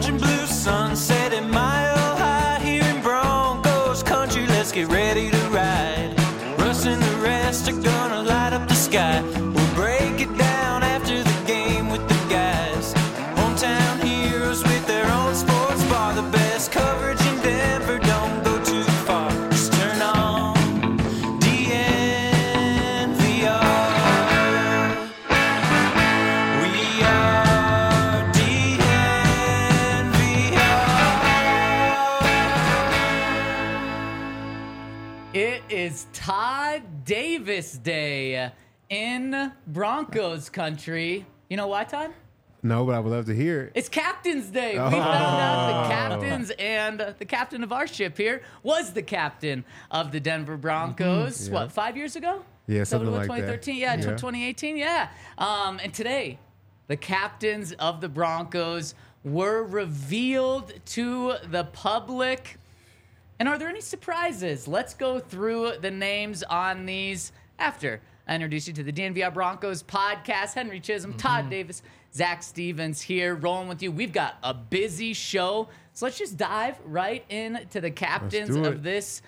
orange and blue sunset at Mile High here in Broncos country. Let's get ready to ride. Russ and the rest are gonna light up the sky. We'll break it down after the game with the guys. Hometown heroes with their own sports bar. The best coverage in Denver, don't go too far. Just turn on DNVR. We are DNVR. It is Todd Davis Day in Broncos country. You know why, Todd? No, but I would love to hear it. It's Captain's Day. We found out the captains, and the captain of our ship here was the captain of the Denver Broncos. Yeah. What, 5 years ago? Yeah, Is that something what it was, like that. 2013? Yeah, 2018. Yeah. And today, the captains of the Broncos were revealed to the public. And are there any surprises? Let's go through the names on these after I introduce you to the DNVR Broncos podcast. Henry Chisholm, Todd Davis, Zach Stevens here, rolling with you. We've got a busy show, so let's just dive right into the captains do it. of this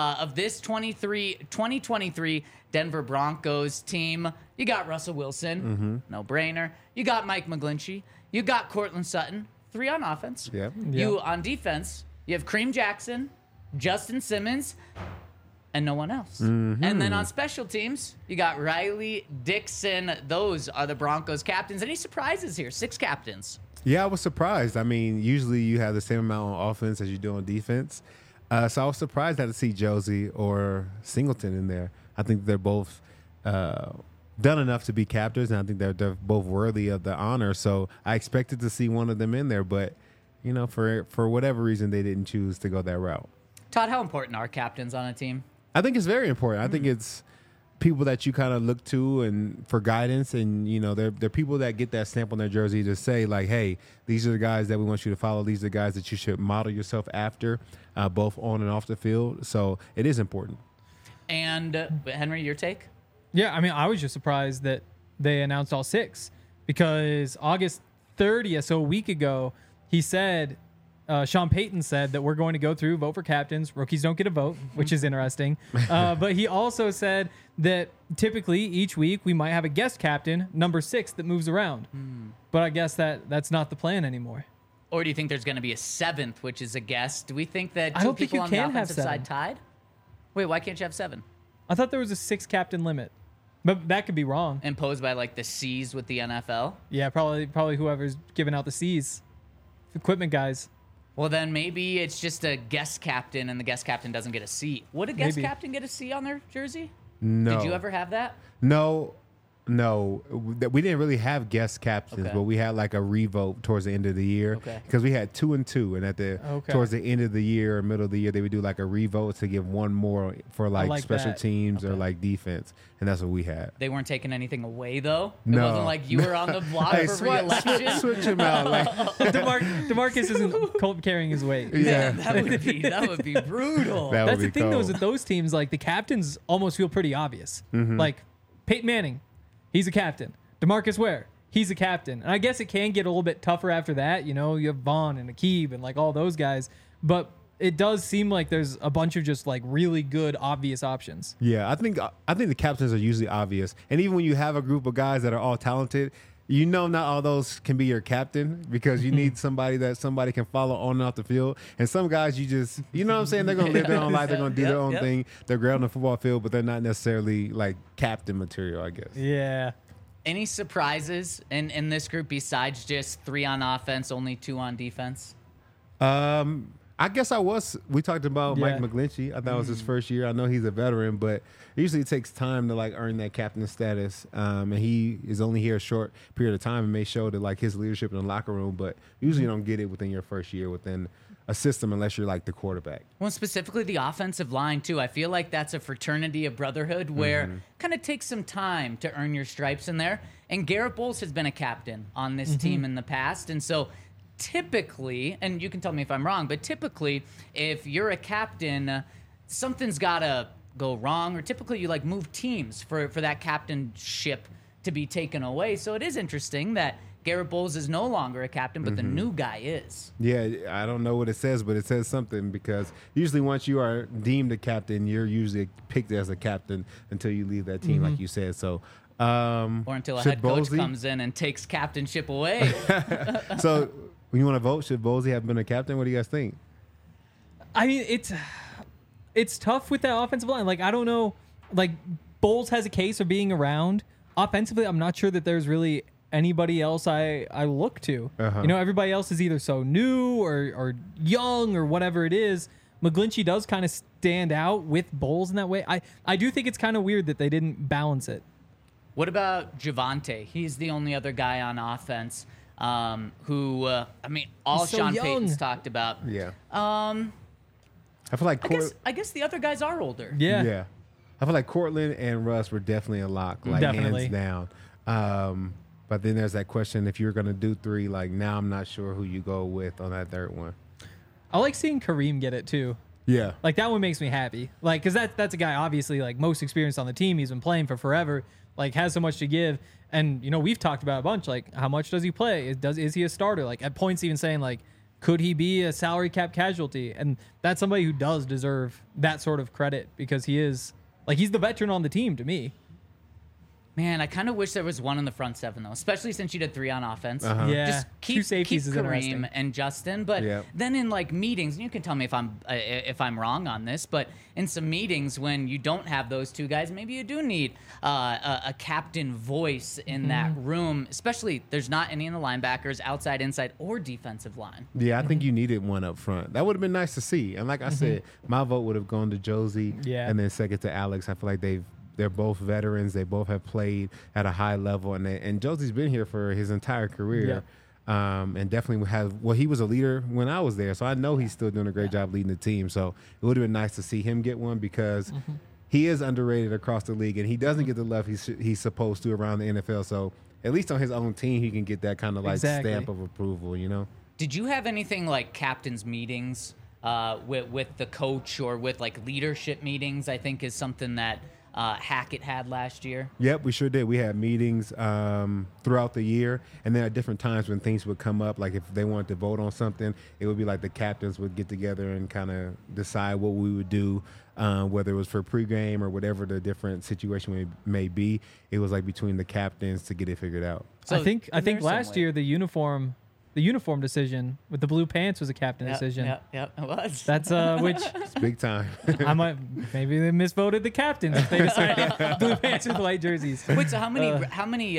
2023 Denver Broncos team. You got Russell Wilson, no brainer. You got Mike McGlinchey. You got Cortland Sutton, 3 on offense. Yep. You on defense, you have Kareem Jackson, Justin Simmons, and no one else. And then on special teams, you got Riley Dixon. Those are the Broncos captains. Any surprises here? 6 captains. Yeah, I was surprised. I mean, usually you have the same amount on offense as you do on defense. So I was surprised not to see Josie or Singleton in there. I think they're both done enough to be captains, and I think they're both worthy of the honor. So I expected to see one of them in there, but you know, for whatever reason, they didn't choose to go that route. Todd, how important are captains on a team? I think it's very important. I think it's people that you kind of look to and for guidance, and you know, they're people that get that stamp on their jersey to say like, hey, these are the guys that we want you to follow. These are the guys that you should model yourself after, both on and off the field. So it is important. And Henry, your take? Yeah, I mean, I was just surprised that they announced all 6 because August 30th, so a week ago, he said, Sean Payton said that we're going to go through, vote for captains. Rookies don't get a vote, which is interesting. But he also said that typically each week we might have a guest captain, number 6, that moves around. But I guess that's not the plan anymore. Or do you think there's going to be a 7th, which is a guest? Do we think that I two don't think people you on the can have offensive 7. side tied? Wait, why can't you have 7? I thought there was a 6 captain limit, but that could be wrong. Imposed by like the C's with the NFL? Yeah, probably whoever's giving out the C's, equipment guys. Well, then maybe it's just a guest captain and the guest captain doesn't get a C. Would a guest Maybe. captain get a C on their jersey? No. Did you ever have that? No. We didn't really have guest captains, Okay. but we had like a revote towards the end of the year because we had 2 and 2, and towards the end of the year or middle of the year, they would do like a revote to give one more for like special that. teams or like defense, and that's what we had. They weren't taking anything away, though? It No. wasn't like you were on the block Hey, for re-election? switch him out. Like, DeMarcus isn't carrying his weight. yeah, That would be brutal. That That's would the be thing, though, cold. is that those teams, like the captains, almost feel pretty obvious. Like Peyton Manning, he's a captain. DeMarcus Ware, he's a captain. And I guess it can get a little bit tougher after that. You know, you have Vaughn and Aqib and like all those guys. But it does seem like there's a bunch of just like really good, obvious options. Yeah, I think the captains are usually obvious, and even when you have a group of guys that are all talented, you know, not all those can be your captain because you need somebody that somebody can follow on and off the field. And some guys, you know what I'm saying? They're gonna live their own life. They're gonna do their own thing. They're great on the football field, but they're not necessarily like captain material, I guess. Yeah. Any surprises in this group besides just 3 on offense, only 2 on defense? I guess we talked about Yeah. Mike McGlinchey. I thought it was his first year. I know he's a veteran, but usually it takes time to like earn that captain status. And he is only here a short period of time and may show that like his leadership in the locker room, but usually you don't get it within your first year within a system unless you're like the quarterback. Well, specifically the offensive line, too. I feel like that's a fraternity of brotherhood where kind of takes some time to earn your stripes in there. And Garrett Bowles has been a captain on this team in the past. And so typically, and you can tell me if I'm wrong, but typically if you're a captain, something's got to go wrong. Or typically you like move teams for that captainship to be taken away. So it is interesting that Garrett Bowles is no longer a captain, but the new guy is. Yeah, I don't know what it says, but it says something because usually once you are deemed a captain, you're usually picked as a captain until you leave that team, like you said. So, Or until a should head coach Bowlesy- comes in and takes captainship away. So, when you want to vote, should Bowlesy have been a captain? What do you guys think? I mean, it's tough with that offensive line. Like, I don't know. Like, Bowles has a case of being around. Offensively, I'm not sure that there's really anybody else I look to. Uh-huh. You know, everybody else is either so new or young or whatever it is. McGlinchey does kind of stand out with Bowles in that way. I do think it's kind of weird that they didn't balance it. What about Javonte? He's the only other guy on offense who, I mean, all He's so Sean young. Payton's talked about. Yeah. I feel like I guess the other guys are older. Yeah. I feel like Cortland and Russ were definitely a lock, like Definitely. hands down. But then there's that question: if you're gonna do three, like now, I'm not sure who you go with on that third one. I like seeing Kareem get it too. Yeah. Like that one makes me happy. Like, cause that's a guy obviously like most experienced on the team. He's been playing for forever. Like has so much to give. And you know we've talked about a bunch. Like how much does he play? Is he a starter? Like at points even saying like could he be a salary cap casualty? And that's somebody who does deserve that sort of credit because he is like he's the veteran on the team to me. Man, I kind of wish there was one in the front seven, though, especially since you did three on offense. Yeah, Just two keep safeties is Kareem interesting. and Justin. But Yep. then in, like, meetings, and you can tell me if I'm wrong on this, but in some meetings when you don't have those two guys, maybe you do need a captain voice in that room, especially there's not any in the linebackers, outside, inside, or defensive line. Yeah, I think you needed one up front. That would have been nice to see. And like I said, my vote would have gone to Josie, Yeah. and then second to Alex. I feel like they're both veterans. They both have played at a high level, and Josie's been here for his entire career. And definitely he was a leader when I was there, so I know he's still doing a great job leading the team. So it would have been nice to see him get one because he is underrated across the league, and he doesn't get the love he's supposed to around the NFL. So at least on his own team, he can get that kind of like Exactly. stamp of approval, you know? Did you have anything like captain's meetings with the coach or with like leadership meetings? I think is something that Hackett had last year. Yep, we sure did. We had meetings throughout the year, and then at different times when things would come up, like if they wanted to vote on something, it would be like the captains would get together and kind of decide what we would do, whether it was for pregame or whatever the different situation may be. It was like between the captains to get it figured out. So I think in there last some way. year the uniform decision with the blue pants was a captain decision. Yep, it was. That's which It's big time. I might maybe they misvoted the captains if they decided blue pants with white jerseys. Wait, so how many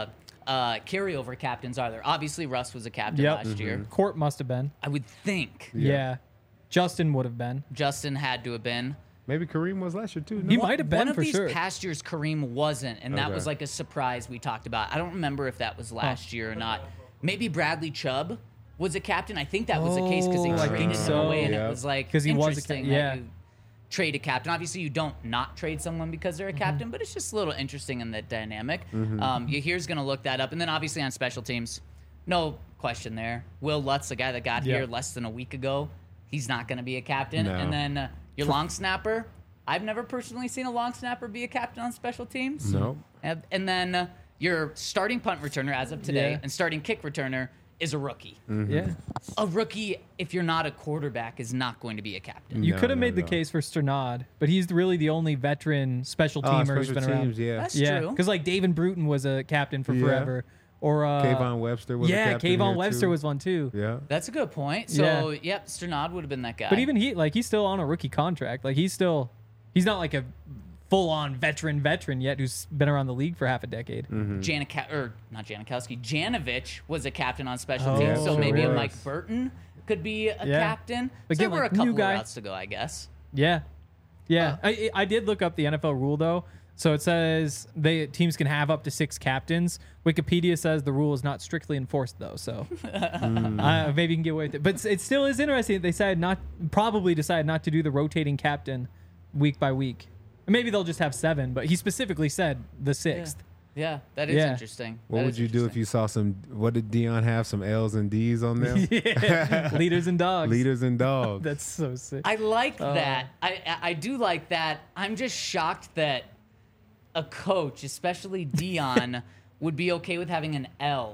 carryover captains are there? Obviously, Russ was a captain Yep. last year. Court must have been. I would think Yeah. Justin would have been. Justin had to have been. Maybe Kareem was last year too. No? He might have been One of for these sure. past years, Kareem wasn't, and that Okay. was like a surprise we talked about. I don't remember if that was last year or not. Maybe Bradley Chubb was a captain. I think that was the case because they Oh, I traded think him so. away, and Yeah. it was like 'Cause he was a interesting yeah. that you trade a captain. Obviously, you don't not trade someone because they're a captain, but it's just a little interesting in the dynamic. Yahir's going to look that up, and then obviously on special teams, no question there. Will Lutz, the guy that got Yeah. here less than a week ago, he's not going to be a captain. No. And then your long snapper, I've never personally seen a long snapper be a captain on special teams. No. And then your starting punt returner as of today Yeah. and starting kick returner is a rookie. Yeah. A rookie, if you're not a quarterback, is not going to be a captain. You No, could have no, made the no. case for Sternad, but he's really the only veteran special teamer who's special been around. teams, yeah. That's Yeah, true. because like David Bruton was a captain for Yeah. forever, or Kayvon Webster was a yeah, captain Kayvon here, Webster too. was one too. Yeah. That's a good point. So, yep, Sternad would have been that guy. But even he's still on a rookie contract. Like he's not like a full-on veteran yet who's been around the league for half a decade. not Janikowski, Janovich was a captain on special Oh, teams. So sure maybe a was. Mike Burton could be a Yeah. captain. But So there again, were like, a couple new of guy. routes to go, I guess. Yeah. I did look up the NFL rule though. So it says teams can have up to 6 captains. Wikipedia says the rule is not strictly enforced though, so maybe you can get away with it. But it still is interesting. They probably decided not to do the rotating captain week by week. Maybe they'll just have 7, but he specifically said the 6th. Yeah, that is Yeah. interesting. What That would is you do if interesting. you saw some? What did Dion have? Some L's and D's on them? Leaders and dogs. Leaders and dogs. That's so sick. I like that. I do like that. I'm just shocked that a coach, especially Dion, would be okay with having an L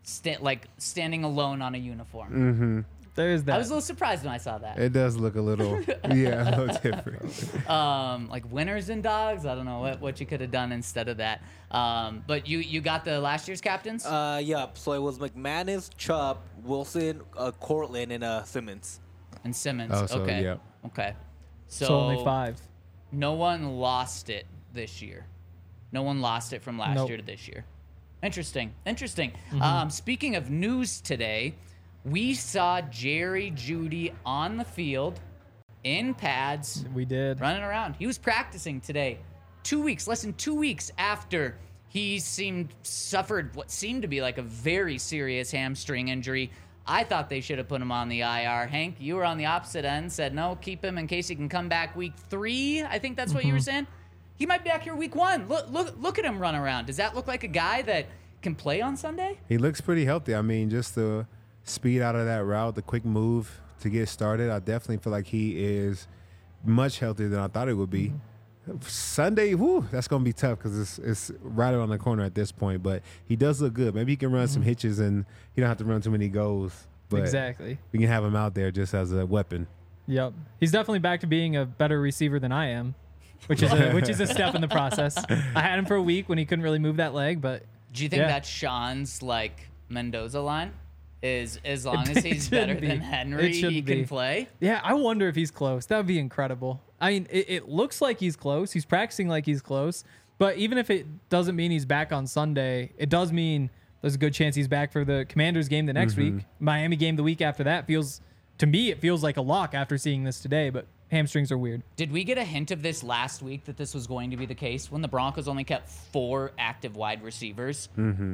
standing alone on a uniform. There's that. I was a little surprised when I saw that. It does look a little, a little different. Like winners and dogs. I don't know what you could have done instead of that. But you got the last year's captains. Yeah. So it was McManus, Chubb, Wilson, Cortland, and Simmons. And Simmons. Oh, so, okay. yep. Okay. so only 5. No one lost it this year. No one lost it from last Nope. year to this year. Interesting. Mm-hmm. Speaking of news today, we saw Jerry Jeudy on the field in pads We did. running around. He was practicing today. Less than 2 weeks after he suffered what seemed to be like a very serious hamstring injury. I thought they should have put him on the IR. Hank, you were on the opposite end, said no, keep him in case he can come back week 3. I think that's what you were saying. He might be back here week 1. Look at him run around. Does that look like a guy that can play on Sunday? He looks pretty healthy. I mean, just the speed out of that route, the quick move to get started. I definitely feel like he is much healthier than I thought it would be. Sunday, that's going to be tough because it's right around the corner at this point. But he does look good. Maybe he can run some hitches and he don't have to run too many goals. But Exactly. we can have him out there just as a weapon. Yep. He's definitely back to being a better receiver than I am, which is a step in the process. I had him for a week when he couldn't really move that leg, but Do you think Yeah. that's Sean's like Mendoza line? Is as long as It he's shouldn't better be. than It Henry, he shouldn't can be. play? yeah, I wonder if he's close. That would be incredible. I mean, it looks like he's close. He's practicing like he's close. But even if it doesn't mean he's back on Sunday, it does mean there's a good chance he's back for the Commanders game the next week. Miami game the week after that feels like a lock after seeing this today, but hamstrings are weird. Did we get a hint of this last week that this was going to be the case when the Broncos only kept 4 active wide receivers?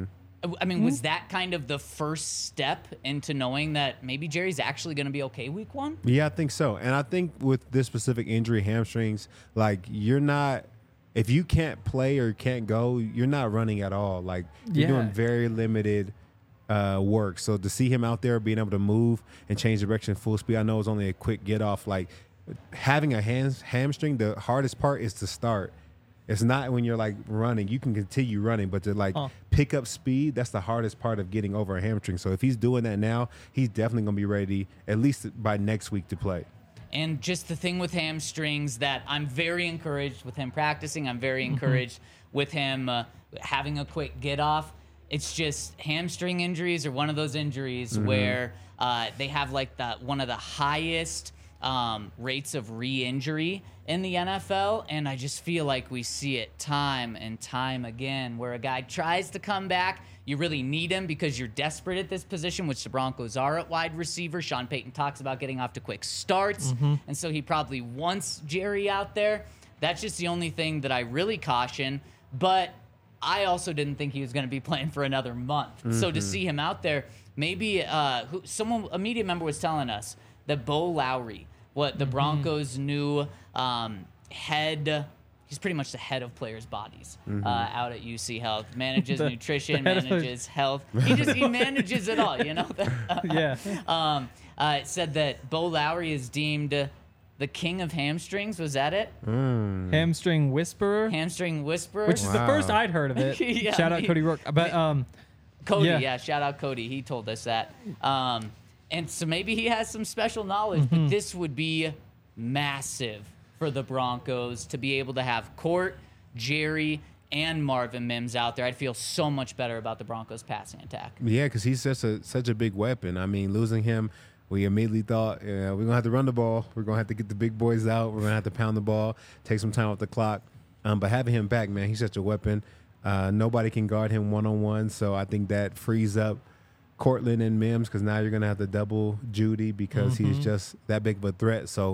I mean, was that kind of the first step into knowing that maybe Jerry's actually going to be okay week 1? Yeah, I think so. And I think with this specific injury, hamstrings, like you're not, if you can't play or can't go, you're not running at all. Like you're Yeah. doing very limited work. So to see him out there being able to move and change direction full speed, I know it's only a quick get off. Like having a hamstring, the hardest part is to start. It's not when you're like running. You can continue running, but to like pick up speed, that's the hardest part of getting over a hamstring. So if he's doing that now, he's definitely going to be ready at least by next week to play. And just the thing with hamstrings that I'm very encouraged with him practicing. I'm very encouraged with him having a quick get off. It's just hamstring injuries are one of those injuries where they have like one of the highest rates of re-injury in the NFL, and I just feel like we see it time and time again where a guy tries to come back. You really need him because you're desperate at this position, which the Broncos are at wide receiver. Sean Payton talks about getting off to quick starts, and so he probably wants Jerry out there. That's just the only thing that I really caution, but I also didn't think he was going to be playing for another month. So to see him out there, maybe a media member was telling us that Bo Lowry, the Broncos' new head, he's pretty much the head of players' bodies out at UC Health. Manages nutrition, the head of- manages health. He manages it all, you know? Yeah. It said that Bo Lowry is deemed the king of hamstrings. Was that it? Hamstring whisperer, Hamstring whisperer? which is the Wow. first I'd heard of it. Yeah, Shout out me- Cody Rourke. But Cody, Yeah. yeah, shout out Cody. He told us that. And so maybe he has some special knowledge, but this would be massive for the Broncos to be able to have Court, Jerry, and Marvin Mims out there. I'd feel so much better about the Broncos passing attack. Yeah, because he's such a big weapon. I mean, losing him, we immediately thought, we're going to have to run the ball. We're going to have to get the big boys out. We're going to have to pound the ball, take some time off the clock. But having him back, man, he's such a weapon. Nobody can guard him one-on-one, so I think that frees up Cortland and Mims because now you're going to have to double Jeudy because he's just that big of a threat. So,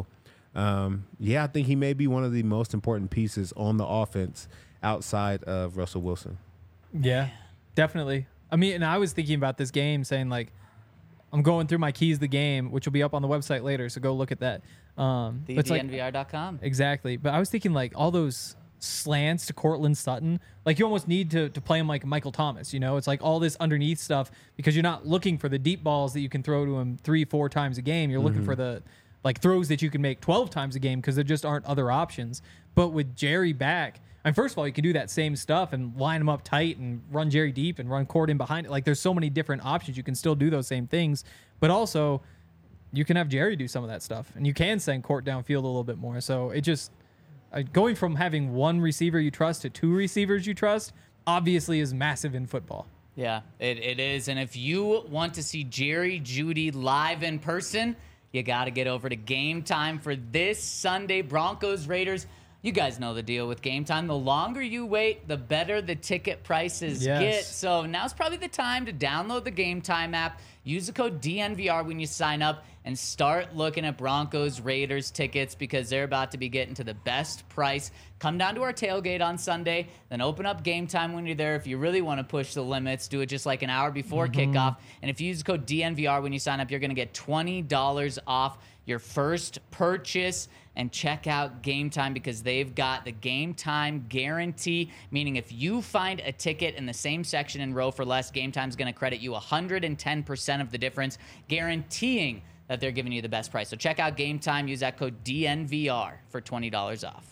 I think he may be one of the most important pieces on the offense outside of Russell Wilson. yeah, definitely. I mean, and I was thinking about this game saying, like, I'm going through my keys the game, which will be up on the website later, so go look at that. But it's like, TheDNVR.com. exactly. But I was thinking, like, all those slants to Cortland Sutton, like, you almost need to play him like Michael Thomas, you know? It's like all this underneath stuff because you're not looking for the deep balls that you can throw to him 3-4 times a game. You're looking for the like throws that you can make 12 times a game because there just aren't other options. But with Jerry back, and first of all, you can do that same stuff and line them up tight and run Jerry deep and run Court in behind it. Like there's so many different options. You can still do those same things, but also you can have Jerry do some of that stuff, and you can send Court downfield a little bit more. So it just going from having one receiver you trust to two receivers you trust obviously is massive in football. Yeah, it is. And if you want to see Jerry Jeudy live in person, you got to get over to Game Time for this Sunday, Broncos Raiders. You guys know the deal with Game Time. The longer you wait, the better the ticket prices get. So now's probably the time to download the Game Time app, use the code DNVR when you sign up, and start looking at Broncos Raiders tickets because they're about to be getting to the best price. Come down to our tailgate on Sunday, then open up Game Time when you're there. If you really want to push the limits, do it just like an hour before kickoff. And if you use the code DNVR when you sign up, you're going to get $20 off your first purchase. And check out Game Time because they've got the Game Time guarantee, meaning if you find a ticket in the same section and row for less, Game Time's going to credit you 110% of the difference, guaranteeing that they're giving you the best price. So check out Game Time. Use that code DNVR for $20 off.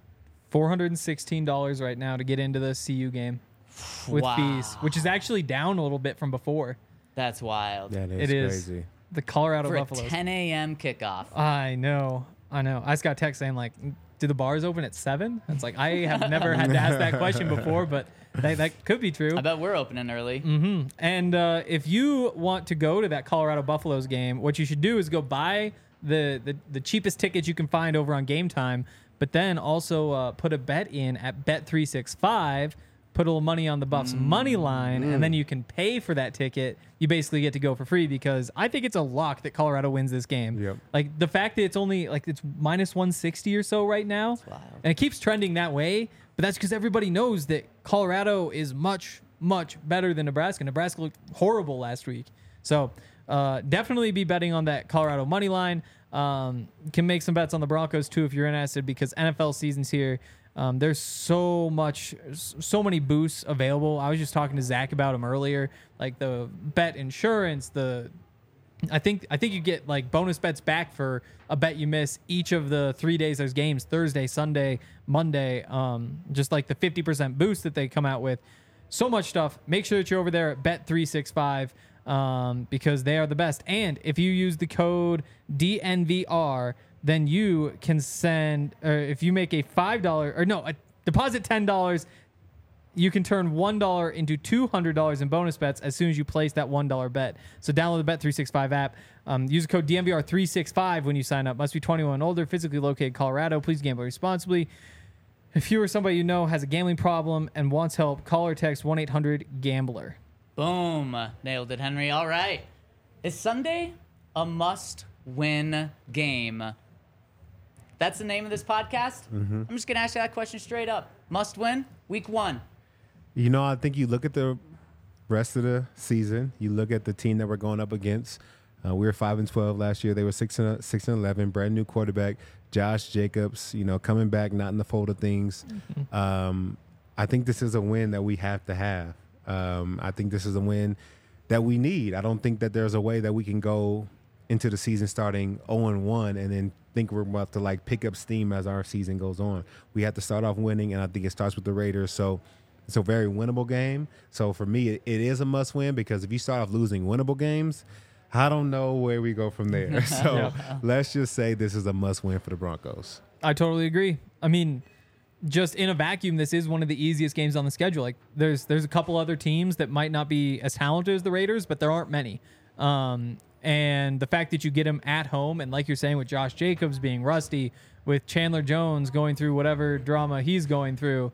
$416 right now to get into the CU game with fees, which is actually down a little bit from before. That's wild. That is It is. crazy. The Colorado For a Buffaloes. 10 a.m. kickoff. I know. I just got a text saying, like, do the bars open at 7? It's like, I have never had to ask that question before, but that could be true. I bet we're opening early. And if you want to go to that Colorado Buffaloes game, what you should do is go buy the cheapest tickets you can find over on Game Time, but then also put a bet in at Bet365, put a little money on the Buffs money line, and then you can pay for that ticket. You basically get to go for free because I think it's a lock that Colorado wins this game. Yep. Like the fact that it's only like it's minus 160 or so right now, and it keeps trending that way. But that's because everybody knows that Colorado is much, much better than Nebraska. Nebraska looked horrible last week. So definitely be betting on that Colorado money line. You can make some bets on the Broncos too if you're interested because NFL season's here. There's so many boosts available. I was just talking to Zach about them earlier, like the bet insurance. I think you get like bonus bets back for a bet you miss each of the 3 days there's games: Thursday, Sunday, Monday. Just like the 50% boost that they come out with. So much stuff. Make sure that you're over there at Bet365 because they are the best. And if you use the code DNVR, then you can send, or if you make a deposit $10, you can turn $1 into $200 in bonus bets as soon as you place that $1 bet. So download the Bet365 app. Use the code DNVR365 when you sign up. Must be 21 and older, physically located in Colorado. Please gamble responsibly. If you or somebody you know has a gambling problem and wants help, call or text 1-800-GAMBLER. Boom. Nailed it, Henry. All right. Is Sunday a must-win game? That's the name of this podcast? I'm just going to ask you that question straight up. Must win? Week 1. You know, I think you look at the rest of the season. You look at the team that we're going up against. We were 5-12 last year. They were 6-11. Brand new quarterback, Josh Jacobs. You know, coming back, not in the fold of things. I think this is a win that we have to have. I think this is a win that we need. I don't think that there's a way that we can go into the season starting 0-1 and then think we're about to like pick up steam as our season goes on. We have to start off winning, and I think it starts with the Raiders. So it's a very winnable game. So for me, it is a must win because if you start off losing winnable games, I don't know where we go from there. So let's just say this is a must win for the Broncos. I totally agree. I mean, just in a vacuum, this is one of the easiest games on the schedule. Like there's a couple other teams that might not be as talented as the Raiders, but there aren't many. And the fact that you get him at home, and like you're saying with Josh Jacobs being rusty, with Chandler Jones going through whatever drama he's going through,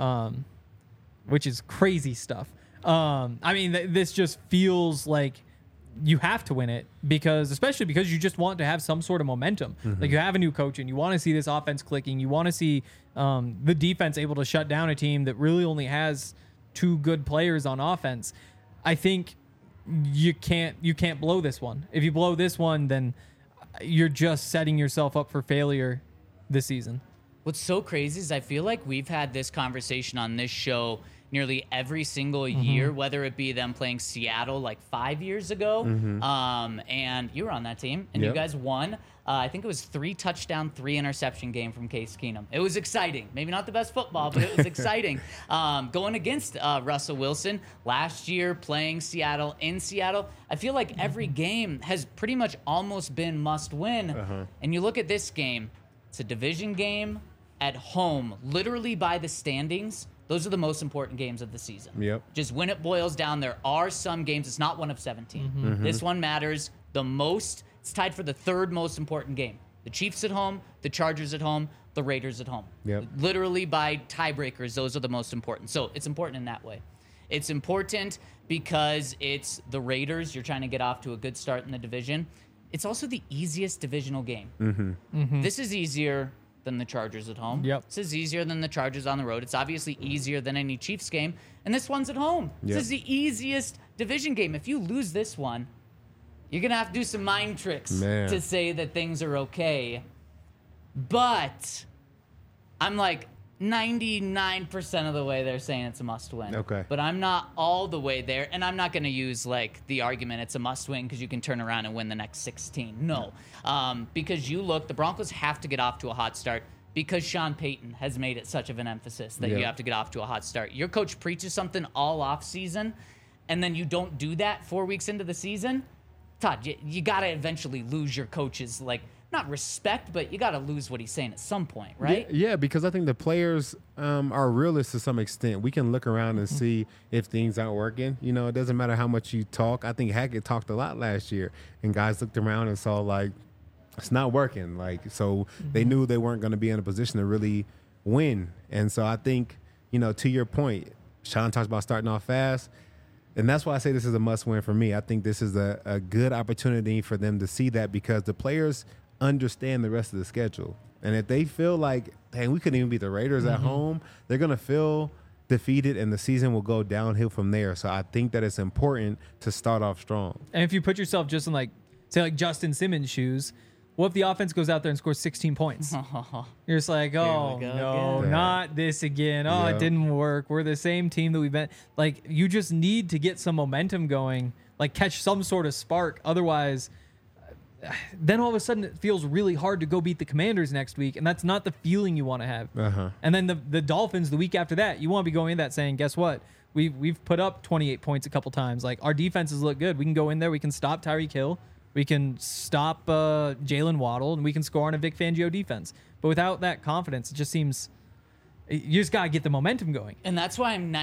which is crazy stuff. I mean, this just feels like you have to win it especially because you just want to have some sort of momentum. Like you have a new coach and you want to see this offense clicking. You want to see the defense able to shut down a team that really only has 2 good players on offense. I think you can't blow this one. If you blow this one, then you're just setting yourself up for failure this season. What's so crazy is I feel like we've had this conversation on this show nearly every single year, whether it be them playing Seattle like 5 years ago. And you were on that team, and you Yep. guys won. I think it was 3 touchdown, 3 interception game from Case Keenum. It was exciting. Maybe not the best football, but it was exciting. Going against Russell Wilson last year, playing Seattle in Seattle, I feel like every game has pretty much almost been must win. And you look at this game, it's a division game at home, literally by the standings. Those are the most important games of the season. Yep. Just when it boils down, there are some games. It's not one of 17. This one matters the most. It's tied for the 3rd most important game. The Chiefs at home, the Chargers at home, the Raiders at home. Yep. Literally by tiebreakers, those are the most important. So it's important in that way. It's important because it's the Raiders. You're trying to get off to a good start in the division. It's also the easiest divisional game. This is easier than the Chargers at home. Yep. This is easier than the Chargers on the road. It's obviously easier than any Chiefs game. And this one's at home. Yep. This is the easiest division game. If you lose this one, you're going to have to do some mind tricks Man. to say that things are okay. But I'm like 99% of the way they're saying it's a must win. Okay. But I'm not all the way there. And I'm not going to use like the argument it's a must win because you can turn around and win the next 16. No. Because you look, the Broncos have to get off to a hot start because Sean Payton has made it such of an emphasis that Yeah. you have to get off to a hot start. Your coach preaches something all off season, and then you don't do that 4 weeks into the season. Todd, you got to eventually lose your coach's, like, not respect, but you got to lose what he's saying at some point, right? Yeah, because I think the players are realists to some extent. We can look around and see if things aren't working. You know, it doesn't matter how much you talk. I think Hackett talked a lot last year, and guys looked around and saw, like, it's not working. Like, so they knew they weren't going to be in a position to really win. And so I think, you know, to your point, Sean talks about starting off fast. And that's why I say this is a must win for me. I think this is a good opportunity for them to see that because the players understand the rest of the schedule. And if they feel like, dang, we couldn't even beat the Raiders at home, they're going to feel defeated and the season will go downhill from there. So I think that it's important to start off strong. And if you put yourself just in like, say like Justin Simmons' shoes, what if the offense goes out there and scores 16 points? You're just like, oh, go no, again. not this again. Oh, Yeah. it didn't work. We're the same team that we've been. Like, you just need to get some momentum going, like catch some sort of spark. Otherwise, then all of a sudden it feels really hard to go beat the Commanders next week, and that's not the feeling you want to have. And then the Dolphins the week after that, you want to be going in that saying, guess what? We've put up 28 points a couple times. Like, our defenses look good. We can go in there. We can stop Tyreek Hill. We can stop Jalen Waddle, and we can score on a Vic Fangio defense. But without that confidence, it just seems you just got to get the momentum going. And that's why I'm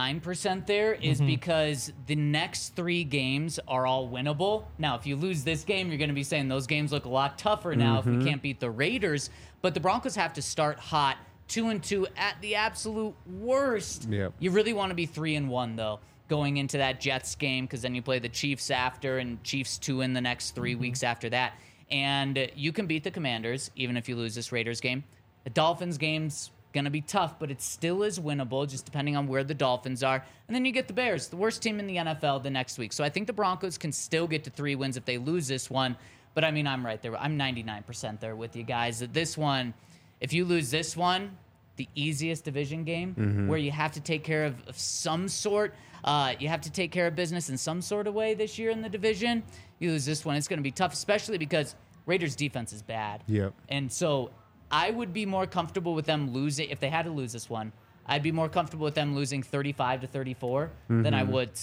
99% there is because the next 3 games are all winnable. Now, if you lose this game, you're going to be saying those games look a lot tougher now if we can't beat the Raiders. But the Broncos have to start hot, 2-2 at the absolute worst. Yep. You really want to be 3-1 though, going into that Jets game, because then you play the Chiefs after, and Chiefs 2 in the next 3 weeks after that. And you can beat the Commanders even if you lose this Raiders game. The Dolphins game's going to be tough, but it still is winnable, just depending on where the Dolphins are. And then you get the Bears, the worst team in the NFL, the next week. So I think the Broncos can still get to 3 wins if they lose this one. But I mean, I'm right there. I'm 99% there with you guys. That this one, if you lose this one, the easiest division game where you have to take care of some sort, you have to take care of business in some sort of way this year in the division. You lose this one, it's going to be tough, especially because Raiders defense is bad. Yep. And so I would be more comfortable with them losing, if they had to lose this one, I'd be more comfortable with them losing 35-34 than I would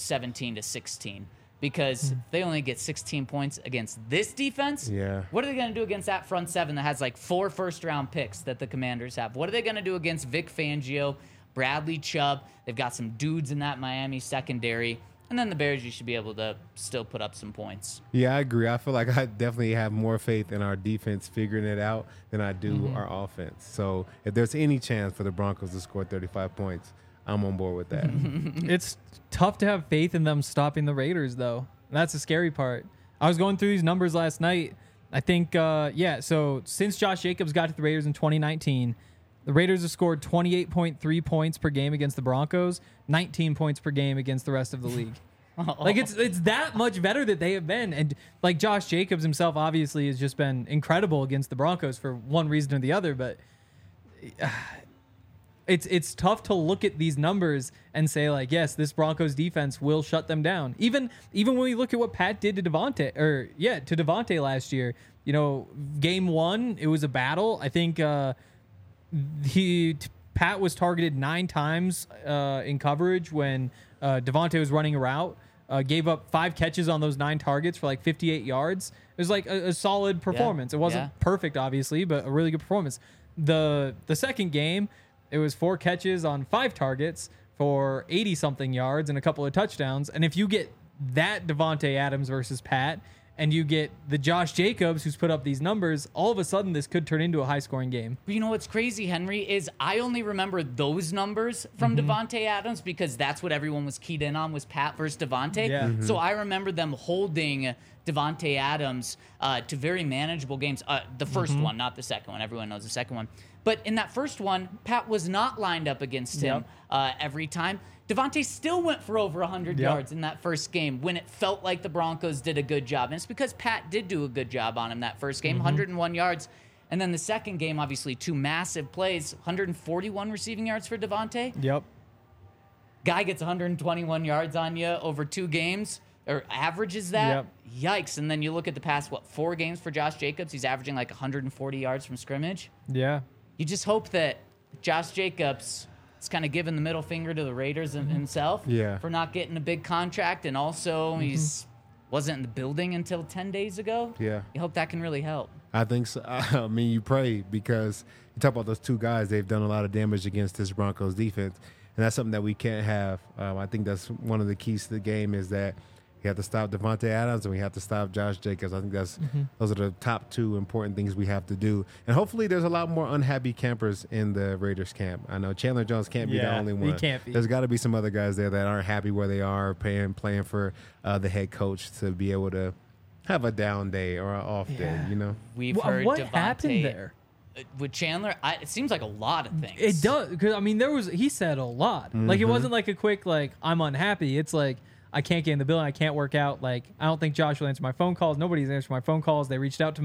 17-16. Because if they only get 16 points against this defense, Yeah. what are they going to do against that front seven that has like 4 first-round picks that the Commanders have? What are they going to do against Vic Fangio, Bradley Chubb? They've got some dudes in that Miami secondary. And then the Bears, you should be able to still put up some points. Yeah, I agree. I feel like I definitely have more faith in our defense figuring it out than I do our offense. So if there's any chance for the Broncos to score 35 points, I'm on board with that. It's tough to have faith in them stopping the Raiders, though. That's the scary part. I was going through these numbers last night. I think, so since Josh Jacobs got to the Raiders in 2019, the Raiders have scored 28.3 points per game against the Broncos, 19 points per game against the rest of the league. Like, it's that much better that they have been. And, like, Josh Jacobs himself obviously has just been incredible against the Broncos for one reason or the other, but it's tough to look at these numbers and say like, yes, this Broncos defense will shut them down. Even when we look at what Pat did to Devontae last year, you know, game 1, it was a battle. I think Pat was targeted 9 times in coverage when Devontae was running a route. Gave up 5 catches on those 9 targets for like 58 yards. It was like a solid performance. It wasn't perfect, obviously, but a really good performance. The second game, it was 4 catches on 5 targets for 80-something yards and a couple of touchdowns. And if you get that Devontae Adams versus Pat, and you get the Josh Jacobs who's put up these numbers, all of a sudden this could turn into a high-scoring game. But you know what's crazy, Henry, is I only remember those numbers from Devontae Adams because that's what everyone was keyed in on was Pat versus Devontae. Yeah. So I remember them holding Devontae Adams to very manageable games. The first one, not the second one. Everyone knows the second one. But in that first one, Pat was not lined up against him every time. Devontae still went for over 100 yards in that first game when it felt like the Broncos did a good job. And it's because Pat did do a good job on him that first game, 101 yards. And then the second game, obviously, 2 massive plays, 141 receiving yards for Devontae. Yep. Guy gets 121 yards on you over 2 games, or averages that. Yikes. And then you look at the past, 4 games for Josh Jacobs. He's averaging like 140 yards from scrimmage. Yeah. You just hope that Josh Jacobs is kind of giving the middle finger to the Raiders himself for not getting a big contract. And also, he's wasn't in the building until 10 days ago. Yeah. You hope that can really help. I think so. I mean, you pray because you talk about those 2 guys. They've done a lot of damage against this Broncos defense, and that's something that we can't have. I think that's one of the keys to the game is that we have to stop Devontae Adams and we have to stop Josh Jacobs. I think those are the top 2 important things we have to do. And hopefully there's a lot more unhappy campers in the Raiders camp. I know Chandler Jones can't be the only one. He can't be. There's got to be some other guys there that aren't happy where they are, playing for the head coach to be able to have a down day or an off day, you know? We've heard What Devontae, happened there? With Chandler, it seems like a lot of things. It does, because I mean, he said a lot. Like it wasn't like a quick like I'm unhappy. It's like I can't get in the building. I can't work out. Like I don't think Josh will answer my phone calls. Nobody's answering my phone calls. They reached out to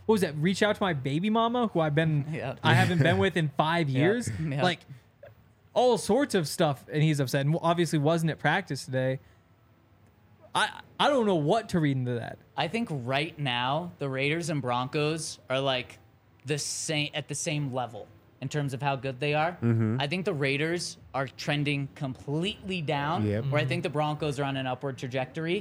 my baby mama who I haven't been with in 5 years. Yep. Like all sorts of stuff, and he's upset. And obviously wasn't at practice today. I don't know what to read into that. I think right now the Raiders and Broncos are like at the same level in terms of how good they are. I think the Raiders are trending completely down, where I think the Broncos are on an upward trajectory.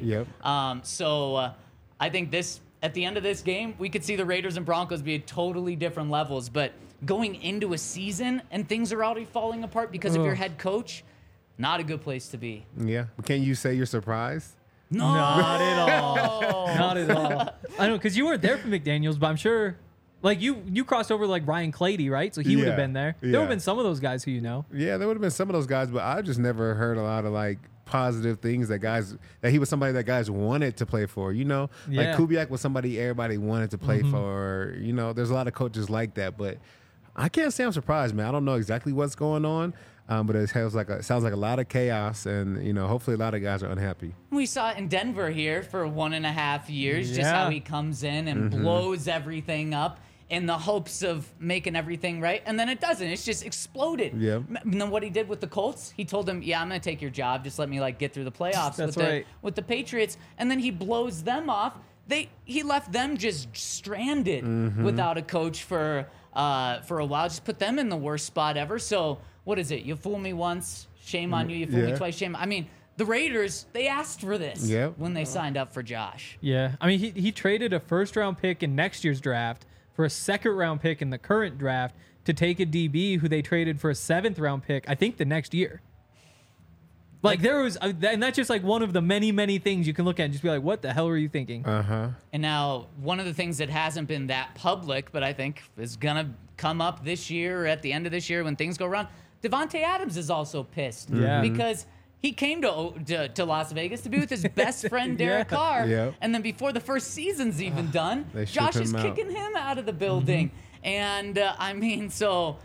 So I think at the end of this game, we could see the Raiders and Broncos be at totally different levels. But going into a season and things are already falling apart because of your head coach, not a good place to be. Yeah. But can you say you're surprised? No, Not at all. Not at all. I know, because you weren't there for McDaniels, but I'm sure. Like you crossed over like Ryan Clady, right? So he would have been there. There would have been some of those guys who you know. Yeah, there would have been some of those guys, but I just never heard a lot of like positive things that he was somebody that guys wanted to play for. You know, like Kubiak was somebody everybody wanted to play for. You know, there's a lot of coaches like that, but I can't say I'm surprised, man. I don't know exactly what's going on, but it sounds like a lot of chaos, and you know, hopefully a lot of guys are unhappy. We saw it in Denver here for 1.5 years, just how he comes in and blows everything up in the hopes of making everything right, and then it doesn't. It's just exploded. Yeah. And then what he did with the Colts, he told them, "Yeah, I'm going to take your job. Just let me like get through the playoffs with the Patriots." And then he blows them off. He left them just stranded without a coach for a while. Just put them in the worst spot ever. So what is it? You fool me once, shame on you. You fool me twice, shame. I mean, the Raiders, they asked for this when they signed up for Josh. Yeah, I mean, he traded a first-round pick in next year's draft for a second-round pick in the current draft to take a DB who they traded for a 7th-round pick, I think, the next year. Like there was, and that's just like one of the many, many things you can look at and just be like, what the hell are you thinking? And now one of the things that hasn't been that public, but I think is going to come up this year or at the end of this year when things go wrong, Devontae Adams is also pissed because he came to Las Vegas to be with his best friend, Derek Carr. And then before the first season's even done, Josh is kicking him out of the building. And I mean, so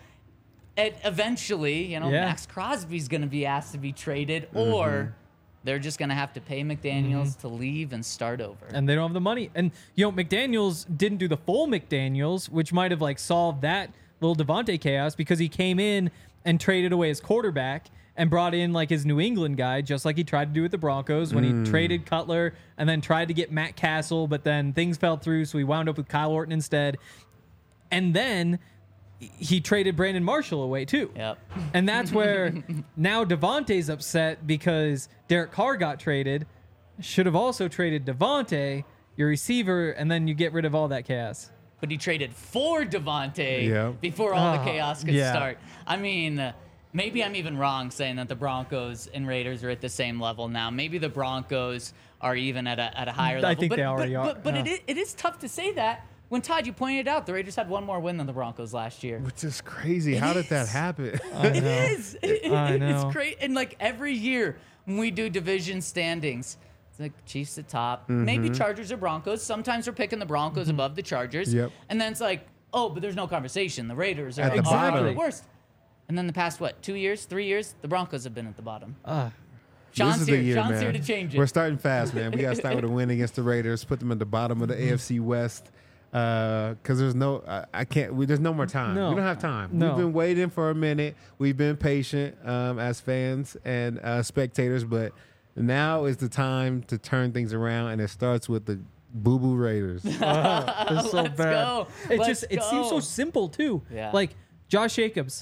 eventually, you know, Max Crosby's going to be asked to be traded or they're just going to have to pay McDaniels to leave and start over. And they don't have the money. And, you know, McDaniels didn't do the full McDaniels, which might have like solved that little Devontae chaos because he came in and traded away his quarterback and brought in like his New England guy, just like he tried to do with the Broncos when he traded Cutler and then tried to get Matt Castle, but then things fell through, so he wound up with Kyle Orton instead. And then he traded Brandon Marshall away too. Yep. And that's where now Devontae's upset because Derek Carr got traded. Should have also traded Devontae, your receiver, and then you get rid of all that chaos. But he traded for Devontae Yeah. before all the chaos could yeah. start. I mean, maybe I'm even wrong saying that the Broncos and Raiders are at the same level now. Maybe the Broncos are even at a higher level. I think they already are. But it is tough to say that when, Todd, you pointed out the Raiders had one more win than the Broncos last year. Which is crazy. How did that happen? It is. I It's know. great. And like every year when we do division standings, it's like Chiefs at top, maybe Chargers or Broncos. Sometimes we're picking the Broncos above the Chargers. Yep. And then it's like, oh, but there's no conversation. The Raiders are At the exactly bottom. the worst. And then the past, 2 years, 3 years, the Broncos have been at the bottom. This Sean's is here. the year, Sean's man. here to change it. We're starting fast, man. We got to start with a win against the Raiders, put them at the bottom of the AFC West. Because there's no, I can't. There's no more time. No. We don't have time. No. We've been waiting for a minute. We've been patient as fans and spectators, but now is the time to turn things around, and it starts with the Boo Boo Raiders. It's so Let's bad. go. Let's It seems so go. simple too. Yeah. Like Josh Jacobs,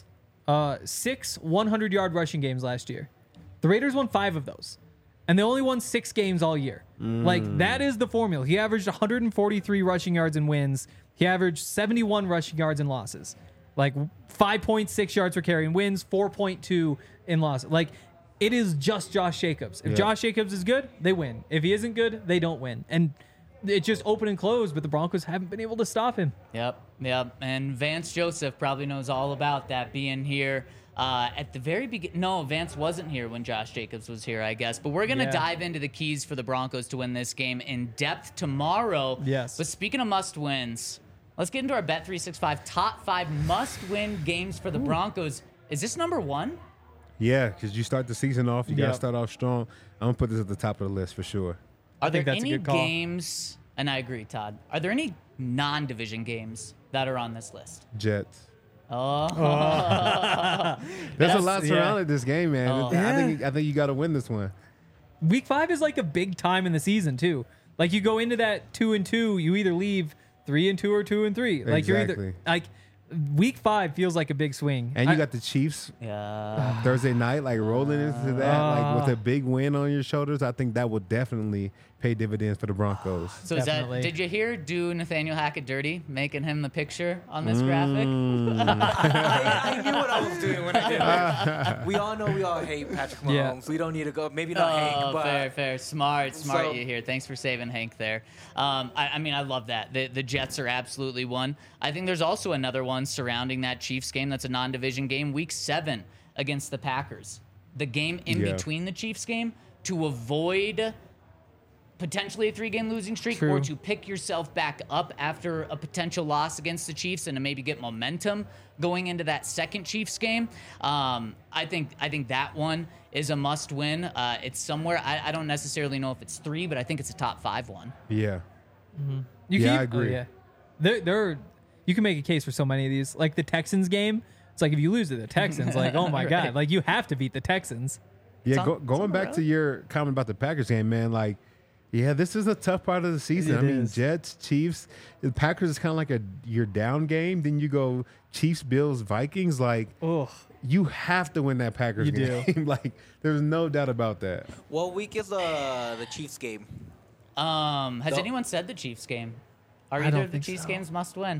6 100-yard rushing games last year. The Raiders won 5 of those, and they only won 6 games all year. Like that is the formula. He averaged 143 rushing yards in wins. He averaged 71 rushing yards in losses. Like 5.6 yards per carry in wins, 4.2 in losses. Like it is just Josh Jacobs. If Yeah. Josh Jacobs is good, they win. If he isn't good, they don't win. And it's just open and close, but the Broncos haven't been able to stop him. Yep. And Vance Joseph probably knows all about that, being here at the very beginning. No, Vance wasn't here when Josh Jacobs was here, I guess. But we're going to Yeah. dive into the keys for the Broncos to win this game in depth tomorrow. Yes. But speaking of must-wins, let's get into our Bet365 top 5 must-win games for the Broncos. Is this number 1? Yeah, because you start the season off, you got to Yep. start off strong. I'm going to put this at the top of the list for sure. Are there think that's a any good call. games, and I agree, Todd, are there any non-division games that are on this list? Jets. Oh. There's a lot yeah. surrounding this game, man. Oh. I think you got to win this one. Week 5 is like a big time in the season too. Like you go into that 2-2, you either leave 3-2 or 2-3. Like you're either Exactly. like week 5 feels like a big swing. And you got the Chiefs Yeah. Thursday night, like rolling into that, like with a big win on your shoulders. I think that would definitely pay dividends for the Broncos. So is that, Definitely. did you hear do Nathaniel Hackett dirty, making him the picture on this graphic? I knew what I was doing when I did it. We all know we all hate Patrick Mahomes. Yeah. We don't need to go. Maybe not Hank, but fair. Smart So- you here. Thanks for saving Hank there. I mean, I love that. The Jets are absolutely one. I think there's also another one surrounding that Chiefs game that's a non-division game, Week 7 against the Packers. The game in Yeah. between the Chiefs game to avoid potentially a 3-game losing streak True. or to pick yourself back up after a potential loss against the Chiefs and to maybe get momentum going into that second Chiefs game. I think that one is a must win. It's somewhere. I don't necessarily know if it's 3, but I think it's a top 5 one. Yeah. You Yeah, can, I agree. yeah. There you can make a case for so many of these. Like the Texans game, it's like if you lose to the Texans, like oh my god, like you have to beat the Texans. Yeah, on- it's going on the back road. to your comment about the Packers game, man, like, yeah, this is a tough part of the season. It I mean, is. Jets, Chiefs, the Packers is kind of like your down game. Then you go Chiefs, Bills, Vikings. Like, Ugh. you have to win that Packers You do. game. Like, there's no doubt about that. what week is the Chiefs game? Has No. anyone said the Chiefs game? Are I either don't of the think Chiefs so. games must win?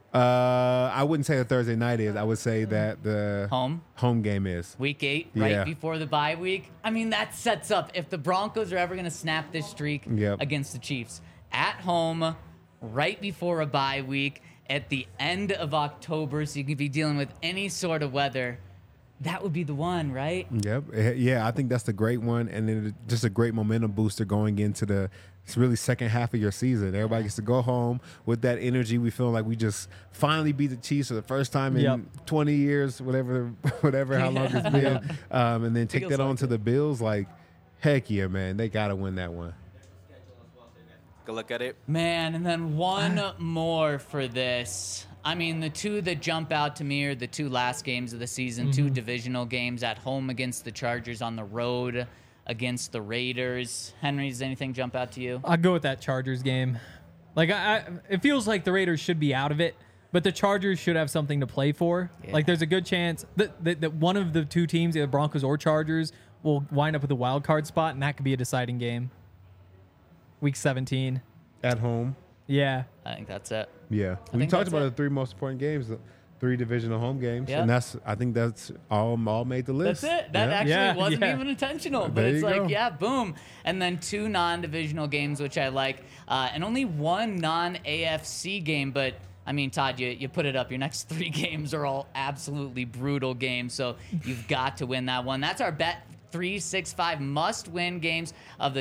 I wouldn't say the Thursday night is. I would say that the Home game is. Week 8, right Yeah. before the bye week. I mean, that sets up if the Broncos are ever going to snap this streak Yep. against the Chiefs at home, right before a bye week, at the end of October, so you can be dealing with any sort of weather. That would be the one, right? Yep. Yeah, I think that's the great one, and then just a great momentum booster going into the really second half of your season. Everybody gets to go home with that energy. We feel like we just finally beat the Chiefs for the first time in Yep. 20 years, whatever, how long it's been, and then take Feels that on like to the Bills. Like, heck yeah, man, they gotta win that one. Go look at it. Man, and then one more for this. I mean, the two that jump out to me are the two last games of the season, two divisional games at home against the Chargers, on the road against the Raiders. Henry, does anything jump out to you? I'd go with that Chargers game. Like, it feels like the Raiders should be out of it, but the Chargers should have something to play for. Yeah. Like, there's a good chance that one of the two teams, either Broncos or Chargers, will wind up with a wild card spot, and that could be a deciding game. Week 17. At home. Yeah. I think that's it. Yeah. We think talked that's about it. the three most important games, the 3 divisional home games. Yeah. And I think that's all made the list. That's it. That Yeah. actually Yeah, wasn't yeah. even intentional, but There it's you like, go. yeah, boom. And then 2 non-divisional games, which I like, and only 1 non-AFC game. But I mean, Todd, you put it up. Your next 3 games are all absolutely brutal games, so you've got to win that one. That's our bet. 365 must-win games of the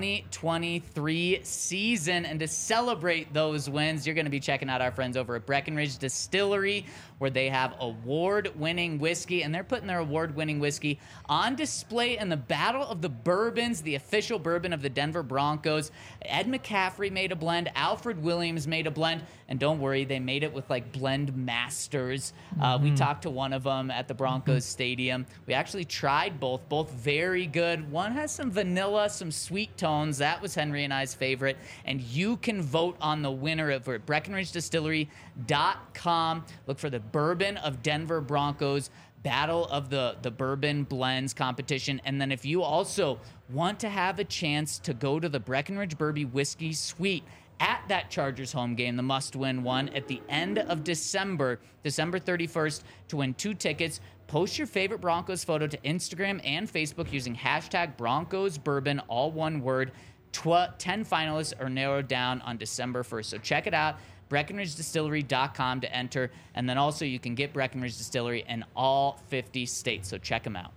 2023 season. And to celebrate those wins, you're going to be checking out our friends over at Breckenridge Distillery, where they have award-winning whiskey, and they're putting their award-winning whiskey on display in the Battle of the Bourbons, the official bourbon of the Denver Broncos. Ed McCaffrey made a blend. Alfred Williams made a blend. And don't worry, they made it with like blend masters. We talked to one of them at the Broncos Stadium. We actually tried both very good. One has some vanilla, some sweet tones. That was Henry and I's favorite. And you can vote on the winner over at BreckenridgeDistillery.com. Look for the Bourbon of Denver Broncos Battle of the Bourbon Blends competition. And then if you also want to have a chance to go to the Breckenridge Bourbon Whiskey Suite at that Chargers home game, the must-win one, at the end of December 31st, to win 2 tickets, post your favorite Broncos photo to Instagram and Facebook using hashtag Broncos Bourbon, all one word. 10 finalists are narrowed down on December 1st. So check it out. BreckenridgeDistillery.com to enter. And then also you can get Breckenridge Distillery in all 50 states. So check them out.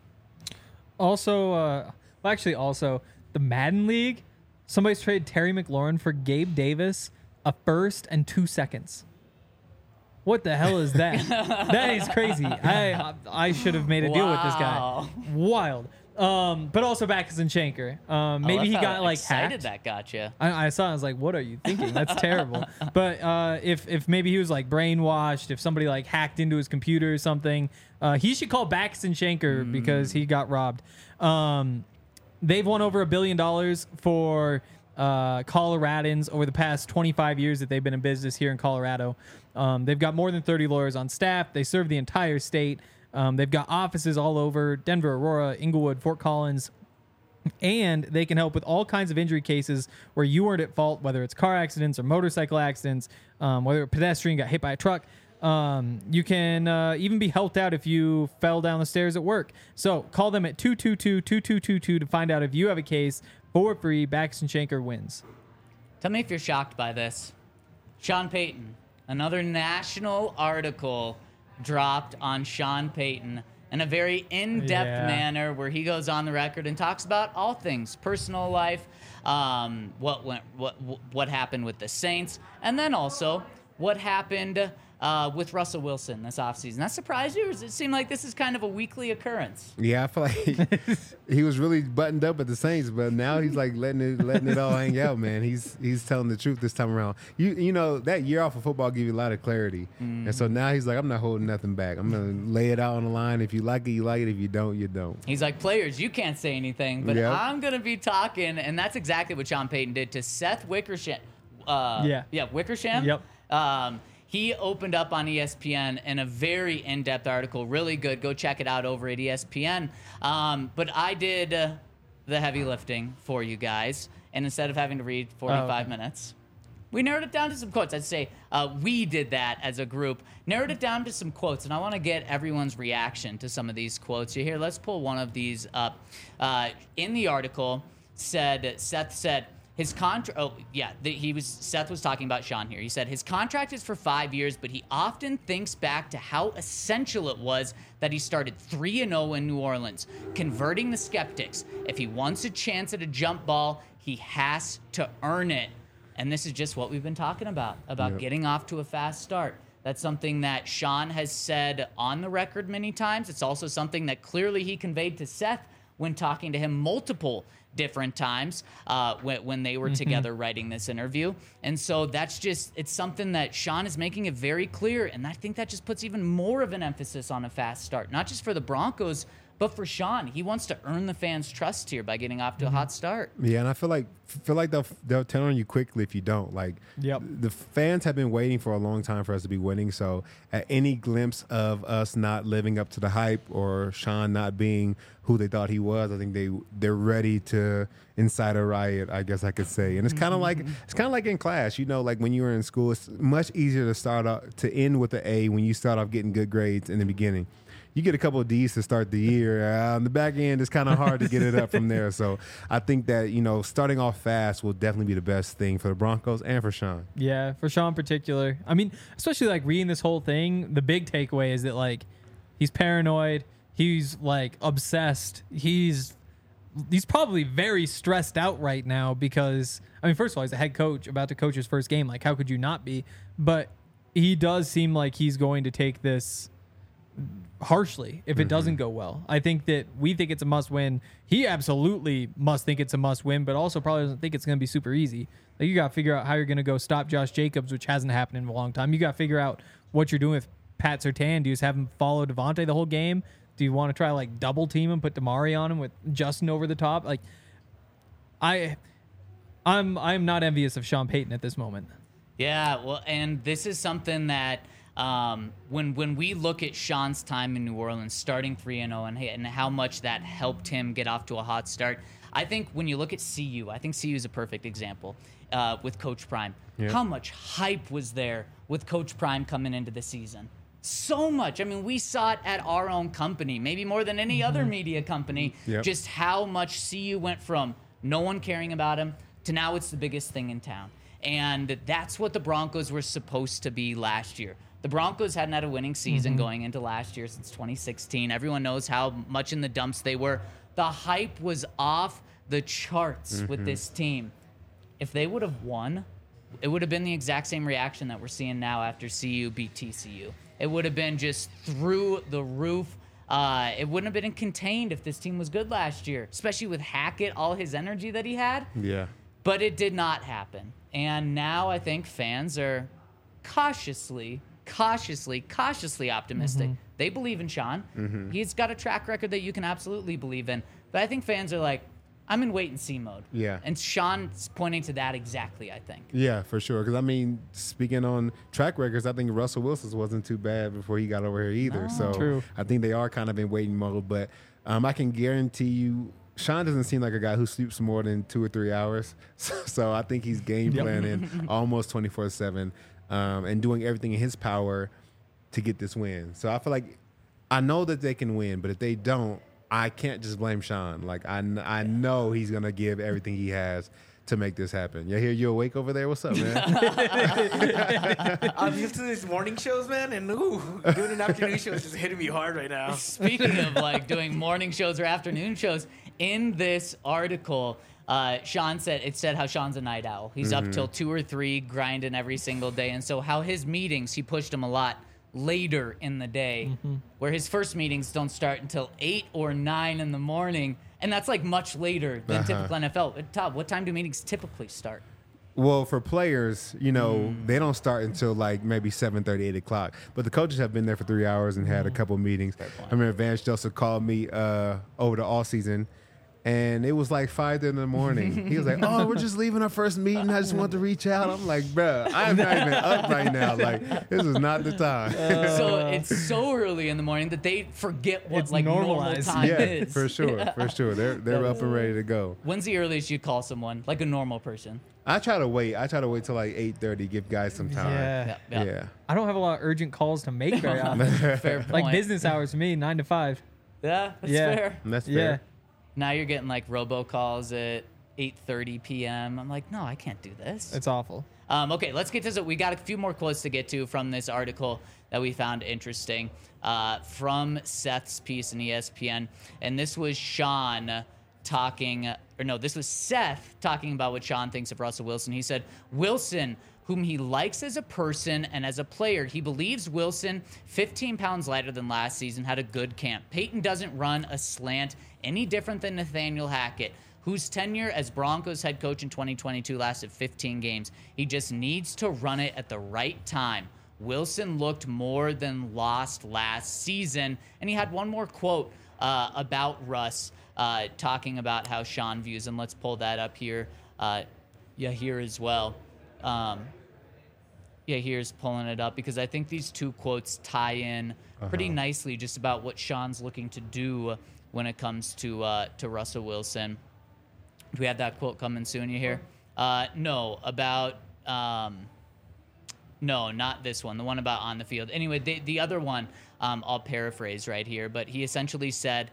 Also, also, the Madden League, somebody's traded Terry McLaurin for Gabe Davis, a first and 2 seconds. What the hell is that? That is crazy. I should have made a deal with this guy. Wow. Wild. But also Backus and Shanker. Maybe he got like excited hacked. that got you. I saw it, I was like, what are you thinking? That's terrible. But if maybe he was like brainwashed, if somebody like hacked into his computer or something, he should call Backus and Shanker because he got robbed. They've won over $1 billion for Coloradans over the past 25 years that they've been in business here in Colorado. They've got more than 30 lawyers on staff. They serve the entire state. They've got offices all over Denver, Aurora, Inglewood, Fort Collins, and they can help with all kinds of injury cases where you weren't at fault, whether it's car accidents or motorcycle accidents, whether a pedestrian got hit by a truck. You can even be helped out if you fell down the stairs at work. So call them at 222-2222 to find out if you have a case for free. Backus and Shanker wins. Tell me if you're shocked by this. Sean Payton, another national article dropped on Sean Payton in a very in-depth manner where he goes on the record and talks about all things personal life, what happened with the Saints, and then also what happened with Russell Wilson this offseason. That surprised you, or does it seem like this is kind of a weekly occurrence? Yeah, I feel like he was really buttoned up at the Saints, but now he's like letting it all hang out, man. He's telling the truth this time around. You know, that year off of football give you a lot of clarity. And so now he's like, I'm not holding nothing back. I'm going to lay it out on the line. If you like it, you like it. If you don't, you don't. He's like, players, you can't say anything, but Yep. I'm going to be talking. And that's exactly what Sean Payton did to Seth Wickersham. Wickersham. Yep. He opened up on ESPN in a very in-depth article, really good. Go check it out over at ESPN. But I did the heavy lifting for you guys, and instead of having to read 45 minutes, we narrowed it down to some quotes. I'd say we did that as a group, narrowed it down to some quotes, and I want to get everyone's reaction to some of these quotes. So here, let's pull one of these up. In the article, Seth said, his contract. Seth was talking about Sean here. He said his contract is for 5 years, but he often thinks back to how essential it was that he started 3-0 in New Orleans, converting the skeptics. If he wants a chance at a jump ball, he has to earn it. And this is just what we've been talking about getting off to a fast start. That's something that Sean has said on the record many times. It's also something that clearly he conveyed to Seth when talking to him multiple different times when they were together writing this interview. And so it's something that Sean is making it very clear. And I think that just puts even more of an emphasis on a fast start, not just for the Broncos, but for Sean. He wants to earn the fans' trust here by getting off to a hot start. Yeah, and I feel like they'll turn on you quickly if you don't. Like, Yep. the fans have been waiting for a long time for us to be winning. So at any glimpse of us not living up to the hype or Sean not being who they thought he was, I think they're ready to incite a riot, I guess I could say. And it's kind of like in class, like when you were in school, it's much easier to end with an A when you start off getting good grades in the beginning. You get a couple of D's to start the year. On the back end, it's kind of hard to get it up from there. So I think that, starting off fast will definitely be the best thing for the Broncos and for Sean. Yeah, for Sean in particular. I mean, especially like reading this whole thing, the big takeaway is that like he's paranoid, he's like obsessed, he's probably very stressed out right now because, I mean, first of all, he's a head coach about to coach his first game. Like, how could you not be? But he does seem like he's going to take this harshly if it doesn't go well. I think that we think it's a must win. He absolutely must think it's a must win, but also probably doesn't think it's going to be super easy. Like, you got to figure out how you're going to go stop Josh Jacobs, which hasn't happened in a long time. You got to figure out what you're doing with Pat Surtain. Do you just have him follow Devontae the whole game? Do you want to try like double team him, put Damari on him with Justin over the top? Like, I'm not envious of Sean Payton at this moment. Yeah, well, and this is something that when we look at Sean's time in New Orleans, starting 3-0 and how much that helped him get off to a hot start, I think when you look at CU, I think CU is a perfect example with Coach Prime. Yeah. How much hype was there with Coach Prime coming into the season? So much. I mean, we saw it at our own company, maybe more than any other media company, Yep. just how much CU went from no one caring about him to now it's the biggest thing in town. And that's what the Broncos were supposed to be last year. The Broncos hadn't had a winning season going into last year since 2016. Everyone knows how much in the dumps they were. The hype was off the charts with this team. If they would have won, it would have been the exact same reaction that we're seeing now after CU beat TCU. It would have been just through the roof. It wouldn't have been contained if this team was good last year, especially with Hackett, all his energy that he had. Yeah. But it did not happen. And now I think fans are cautiously optimistic. They believe in Sean. He's got a track record that you can absolutely believe in. But I think fans are like, I'm in wait and see mode. Yeah. And Sean's pointing to that exactly, I think. Yeah, for sure. Because, I mean, speaking on track records, I think Russell Wilson's wasn't too bad before he got over here either. So True. I think they are kind of in waiting mode. But I can guarantee you, Sean doesn't seem like a guy who sleeps more than 2 or 3 hours. So I think he's game planning almost 24/7 and doing everything in his power to get this win. So I feel like I know that they can win, but if they don't, I can't just blame Sean. Like, I know he's going to give everything he has to make this happen. Yeah, you awake over there? What's up, man? I'm used to these morning shows, man, and doing an afternoon show is just hitting me hard right now. Speaking of like doing morning shows or afternoon shows, in this article, Sean said how Sean's a night owl. He's up till 2 or 3 grinding every single day. And so how his meetings, he pushed them a lot later in the day, where his first meetings don't start until 8 or 9 in the morning. And that's like much later than typical NFL. Todd, what time do meetings typically start? Well, for players, they don't start until like maybe 7:30, 8 o'clock. But the coaches have been there for 3 hours and had a couple meetings. I remember Vance Joseph called me over the all season, and it was like 5 in the morning. He was like, "Oh, we're just leaving our first meeting. I just want to reach out." I'm like, "Bruh, I'm not even up right now. Like, this is not the time." So it's so early in the morning that they forget what It's like normal normalized. time Yeah, is. for sure, for sure. They're up and ready to go. When's the earliest you call someone, like a normal person? I try to wait till like 8:30, give guys some time. Yeah. Yeah. I don't have a lot of urgent calls to make very often. Fair point. Like business hours for me, 9 to 5. Yeah, that's Yeah. fair. That's fair. Yeah. Now you're getting like robocalls at 8:30 p.m. I'm like, no, I can't do this. It's awful. Okay, let's get to this. We got a few more quotes to get to from this article that we found interesting from Seth's piece in ESPN. And this was Sean talking, this was Seth talking about what Sean thinks of Russell Wilson. He said, Wilson, whom he likes as a person and as a player. He believes Wilson, 15 pounds lighter than last season, had a good camp. Peyton doesn't run a slant any different than Nathaniel Hackett, whose tenure as Broncos head coach in 2022 lasted 15 games. He just needs to run it at the right time. Wilson looked more than lost last season. And he had one more quote about Russ, talking about how Sean views him. Let's pull that up here. Here as well. Here's pulling it up because I think these two quotes tie in pretty nicely just about what Sean's looking to do when it comes to Russell Wilson. Do we have that quote coming soon, you hear? No, about... No, not this one. The one about on the field. Anyway, the other one, I'll paraphrase right here, but he essentially said,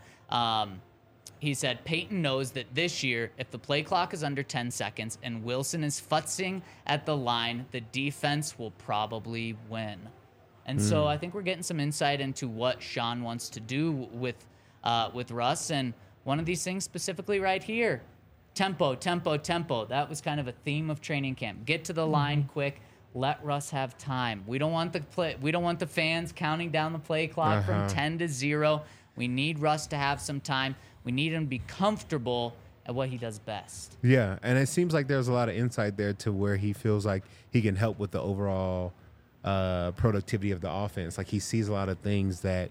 Peyton knows that this year, if the play clock is under 10 seconds and Wilson is futzing at the line, the defense will probably win. And so I think we're getting some insight into what Sean wants to do with Russ. And one of these things specifically right here, tempo, tempo, tempo. That was kind of a theme of training camp. Get to the line quick. Let Russ have time. We don't want the fans counting down the play clock from 10 to 0. We need Russ to have some time. We need him to be comfortable at what he does best. Yeah, and it seems like there's a lot of insight there to where he feels like he can help with the overall productivity of the offense. Like he sees a lot of things that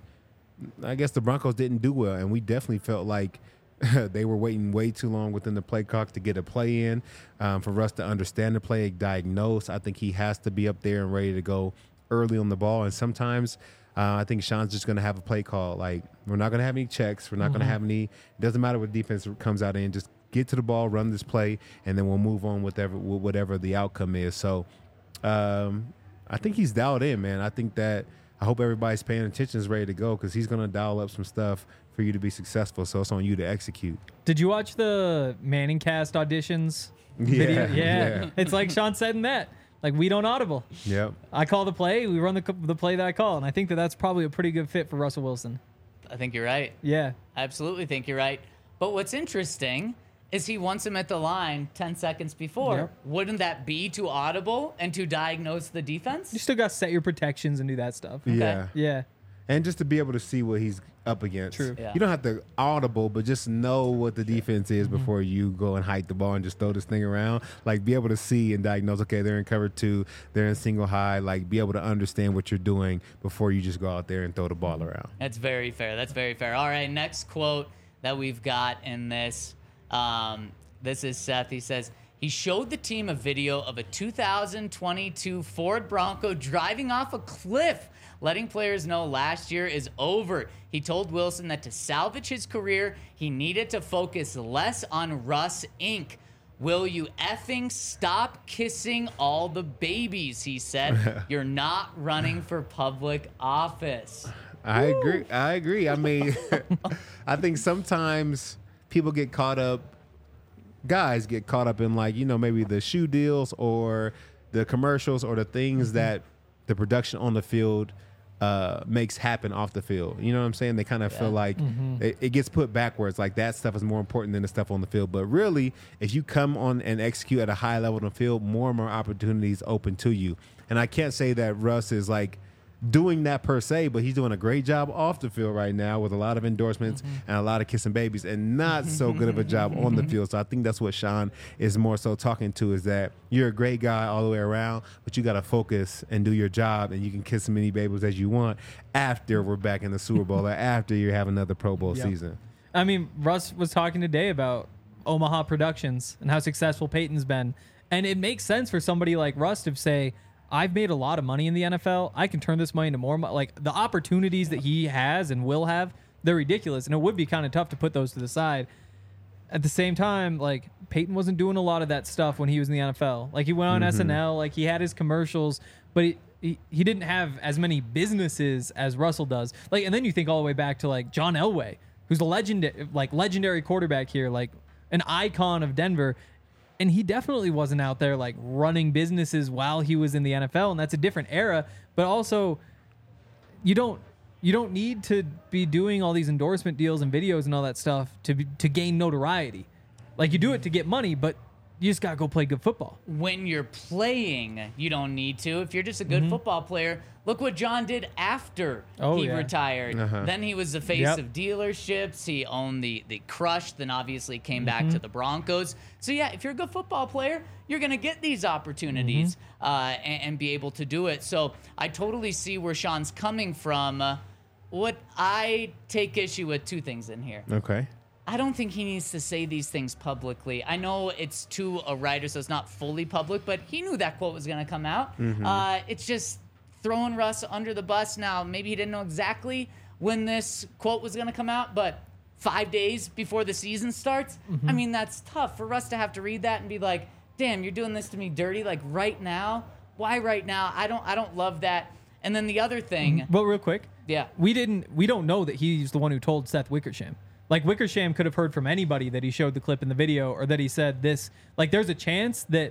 I guess the Broncos didn't do well, and we definitely felt like they were waiting way too long within the play clock to get a play in. For Russ to understand the play, diagnose, I think he has to be up there and ready to go early on the ball. And sometimes I think Sean's just going to have a play call. Like, we're not going to have any checks. We're not going to have any – it doesn't matter what defense comes out in. Just get to the ball, run this play, and then we'll move on with whatever the outcome is. So I think he's dialed in, man. I think that I hope everybody's paying attention, is ready to go, because he's going to dial up some stuff for you to be successful. So it's on you to execute. Did you watch the Manning Cast auditions Yeah, video? Yeah. It's like Sean said in that. Like, we don't audible. Yep. I call the play. We run the play that I call. And I think that's probably a pretty good fit for Russell Wilson. I think you're right. Yeah. I absolutely think you're right. But what's interesting is he wants him at the line 10 seconds before. Yep. Wouldn't that be too audible and to diagnose the defense? You still got to set your protections and do that stuff. Yeah. Yeah. And just to be able to see what he's up against. True. Yeah. You don't have to audible, but just know what the defense is before you go and hike the ball and just throw this thing around. Like, be able to see and diagnose, okay, they're in cover 2, they're in single high. Like, be able to understand what you're doing before you just go out there and throw the ball around. That's very fair. That's very fair. All right, next quote that we've got in this. This is Seth. He says, he showed the team a video of a 2022 Ford Bronco driving off a cliff, letting players know last year is over. He told Wilson that to salvage his career, he needed to focus less on Russ Inc. Will you effing stop kissing all the babies, he said. You're not running for public office. I agree. I mean, I think sometimes people get caught up, guys get caught up in, like, you know, maybe the shoe deals or the commercials or the things that the production on the field makes happen off the field. You know what I'm saying? They kind of feel like it gets put backwards. Like, that stuff is more important than the stuff on the field. But really, if you come on and execute at a high level on the field, more and more opportunities open to you. And I can't say that Russ is like doing that per se, but he's doing a great job off the field right now with a lot of endorsements and a lot of kissing babies, and not so good of a job on the field. So I think that's what Sean is more so talking to, is that you're a great guy all the way around, but you got to focus and do your job, and you can kiss as many babies as you want after we're back in the Super Bowl or after you have another Pro Bowl season. I mean, Russ was talking today about Omaha Productions and how successful Peyton's been. And it makes sense for somebody like Russ to say, I've made a lot of money in the NFL. I can turn this money into more money. Like, the opportunities that he has and will have, they're ridiculous. And it would be kind of tough to put those to the side. At the same time, like, Peyton wasn't doing a lot of that stuff when he was in the NFL. Like, he went on SNL, like, he had his commercials, but he didn't have as many businesses as Russell does. Like, and then you think all the way back to, like, John Elway, who's a legendary quarterback here, like an icon of Denver. And he definitely wasn't out there, like, running businesses while he was in the NFL, and that's a different era. But also, you don't need to be doing all these endorsement deals and videos and all that stuff to gain notoriety. Like, you do it to get money, but you just gotta go play good football. When you're playing, you don't need to. If you're just a good football player, look what John did after he retired. Then he was the face of dealerships. He owned the Crush, then obviously came back to the Broncos. So yeah, if you're a good football player, you're gonna get these opportunities and be able to do it. So I totally see where Sean's coming from. What I take issue with, two things in here. Okay. I don't think he needs to say these things publicly. I know it's to a writer, so it's not fully public, but he knew that quote was going to come out. It's just throwing Russ under the bus. Now, maybe he didn't know exactly when this quote was going to come out, but 5 days before the season starts, I mean, that's tough for Russ to have to read that and be like, damn, you're doing this to me dirty, like right now? Why right now? I don't love that. And then the other thing. But real quick, Yeah. we don't know that he's the one who told Seth Wickersham. Like, Wickersham could have heard from anybody that he showed the clip in the video or that he said this. Like, there's a chance that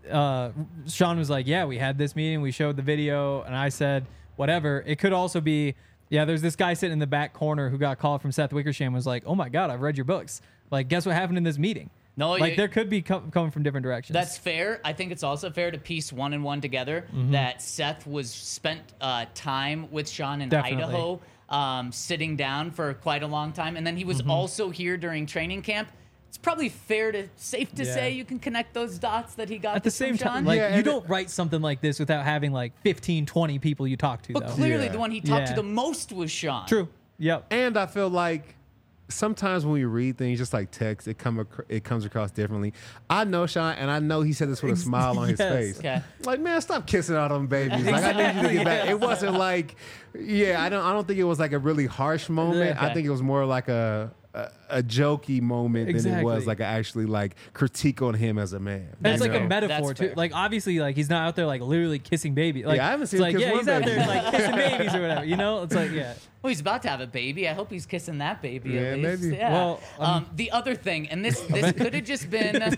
Sean was like, yeah, we had this meeting, we showed the video, and I said whatever. It could also be, yeah, there's this guy sitting in the back corner who got called from Seth Wickersham, was like, oh my God, I've read your books. Like, guess what happened in this meeting? No, like, there could be coming from different directions. That's fair. I think it's also fair to piece one and one together that Seth was spent time with Sean in Definitely. Idaho, sitting down for quite a long time, and then he was also here during training camp. It's probably safe to say you can connect those dots that he got At the same from Sean. time, like, Yeah, you and don't write something like this without having like 15, 20 people you talk to, But though. clearly Yeah. the one he talked to Yeah. the most was Sean. True. Yep. And I feel like sometimes when we read things, just like text, it comes across differently. I know Sean, and I know he said this with a smile on his Yes. face. Okay. Like, man, stop kissing all them babies. Like, I need you to get back. It wasn't like, I don't think it was like a really harsh moment. Okay. I think it was more like a jokey moment than it was Exactly. like actually like critique on him as a man. And it's you like a know? metaphor That's too. fair. Like, obviously, like, he's not out there like literally kissing babies. Like, Yeah, I haven't it's seen him like, kiss yeah, one he's out baby. there like kissing babies or whatever. You know, it's like, yeah. Well, he's about to have a baby. I hope he's kissing that baby. Yeah, at least. maybe. Yeah. Well, the other thing, and this could have just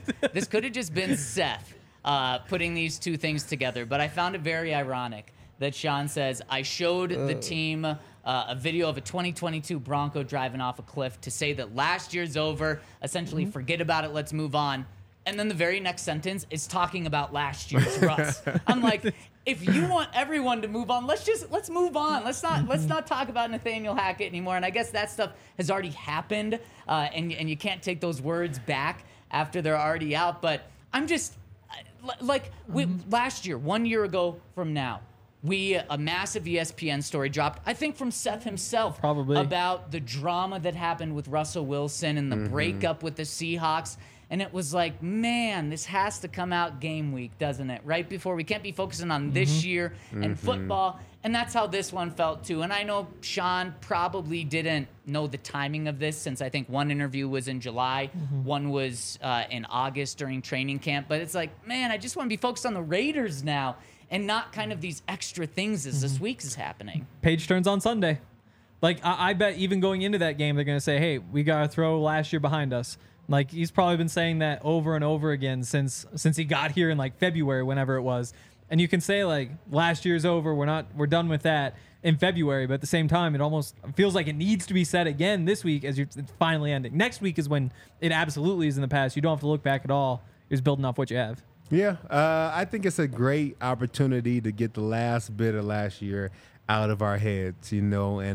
been Seth putting these two things together, but I found it very ironic that Sean says, I showed the team a video of a 2022 Bronco driving off a cliff to say that last year's over, essentially forget about it, let's move on. And then the very next sentence is talking about last year's Russ. I'm like, if you want everyone to move on, let's move on. Let's not talk about Nathaniel Hackett anymore. And I guess that stuff has already happened, and you can't take those words back after they're already out. But I'm just like last year, 1 year ago from now, a massive ESPN story dropped, I think from Seth himself, Probably. about the drama that happened with Russell Wilson and the breakup with the Seahawks. And it was like, man, this has to come out game week, doesn't it? Right before we can't be focusing on this year and football. And that's how this one felt too. And I know Sean probably didn't know the timing of this, since I think one interview was in July, one was in August during training camp. But it's like, man, I just want to be focused on the Raiders now and not kind of these extra things as this week is happening. Page turns on Sunday. Like, I bet even going into that game, they're going to say, hey, we got to throw last year behind us. Like, he's probably been saying that over and over again since he got here in like February, whenever it was. And you can say like, last year's over, we're done with that in February. But at the same time, it almost feels like it needs to be said again this week as it's finally ending. Next week is when it absolutely is in the past. You don't have to look back at all. You're just building off what you have. Yeah, I think it's a great opportunity to get the last bit of last year out of our heads, and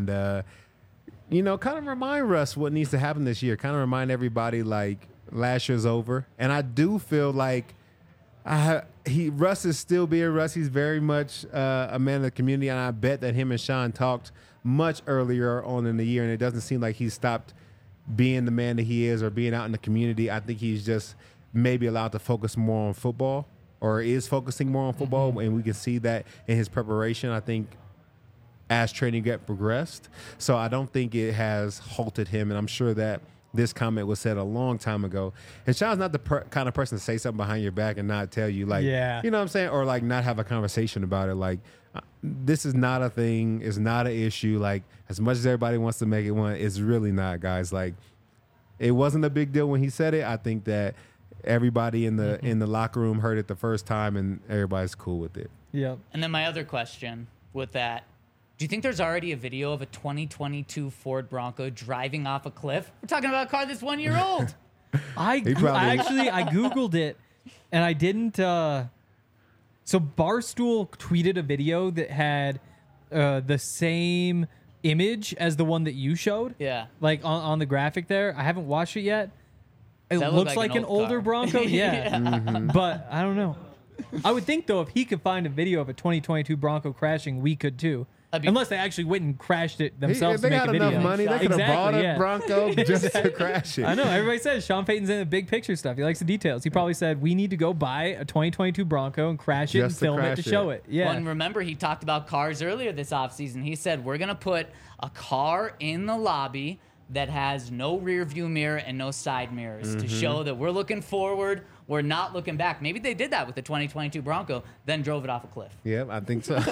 kind of remind Russ what needs to happen this year. Kind of remind everybody like last year's over. And I do feel like Russ is still being Russ. He's very much a man of the community, and I bet that him and Sean talked much earlier on in the year, and it doesn't seem like he's stopped being the man that he is or being out in the community. I think he's just maybe allowed to focus more on football, or is focusing more on football, and we can see that in his preparation, I think, as training got progressed. So I don't think it has halted him, and I'm sure that this comment was said a long time ago. And Sean's not the kind of person to say something behind your back and not tell you, like, Yeah. you know what I'm saying? Or like not have a conversation about it. Like, this is not a thing. It's not an issue. Like, as much as everybody wants to make it one, it's really not, guys. Like, it wasn't a big deal when he said it. I think that everybody in the locker room heard it the first time, and everybody's cool with it. Yep. And then my other question with that, do you think there's already a video of a 2022 Ford Bronco driving off a cliff? We're talking about a car that's 1 year old. I probably- Googled it and I didn't. So Barstool tweeted a video that had the same image as the one that you showed. Yeah. Like on the graphic there. I haven't watched it yet. It That looks looked like like an an old older car. Bronco. Yeah. Mm-hmm. But I don't know. I would think, though, if he could find a video of a 2022 Bronco crashing, we could too. Unless they actually went and crashed it If themselves they to make got a video. enough money, they could have bought a yeah. Bronco just to crash it. I know. Everybody says Sean Payton's in the big picture stuff. He likes the details. He probably said, we need to go buy a 2022 Bronco and crash it and Just to film it to crash show it. it. Yeah. Well, and remember, he talked about cars earlier this offseason. He said, we're going to put a car in the lobby that has no rear view mirror and no side mirrors to show that we're looking forward. We're not looking back. Maybe they did that with the 2022 Bronco, then drove it off a cliff. Yep, I think so.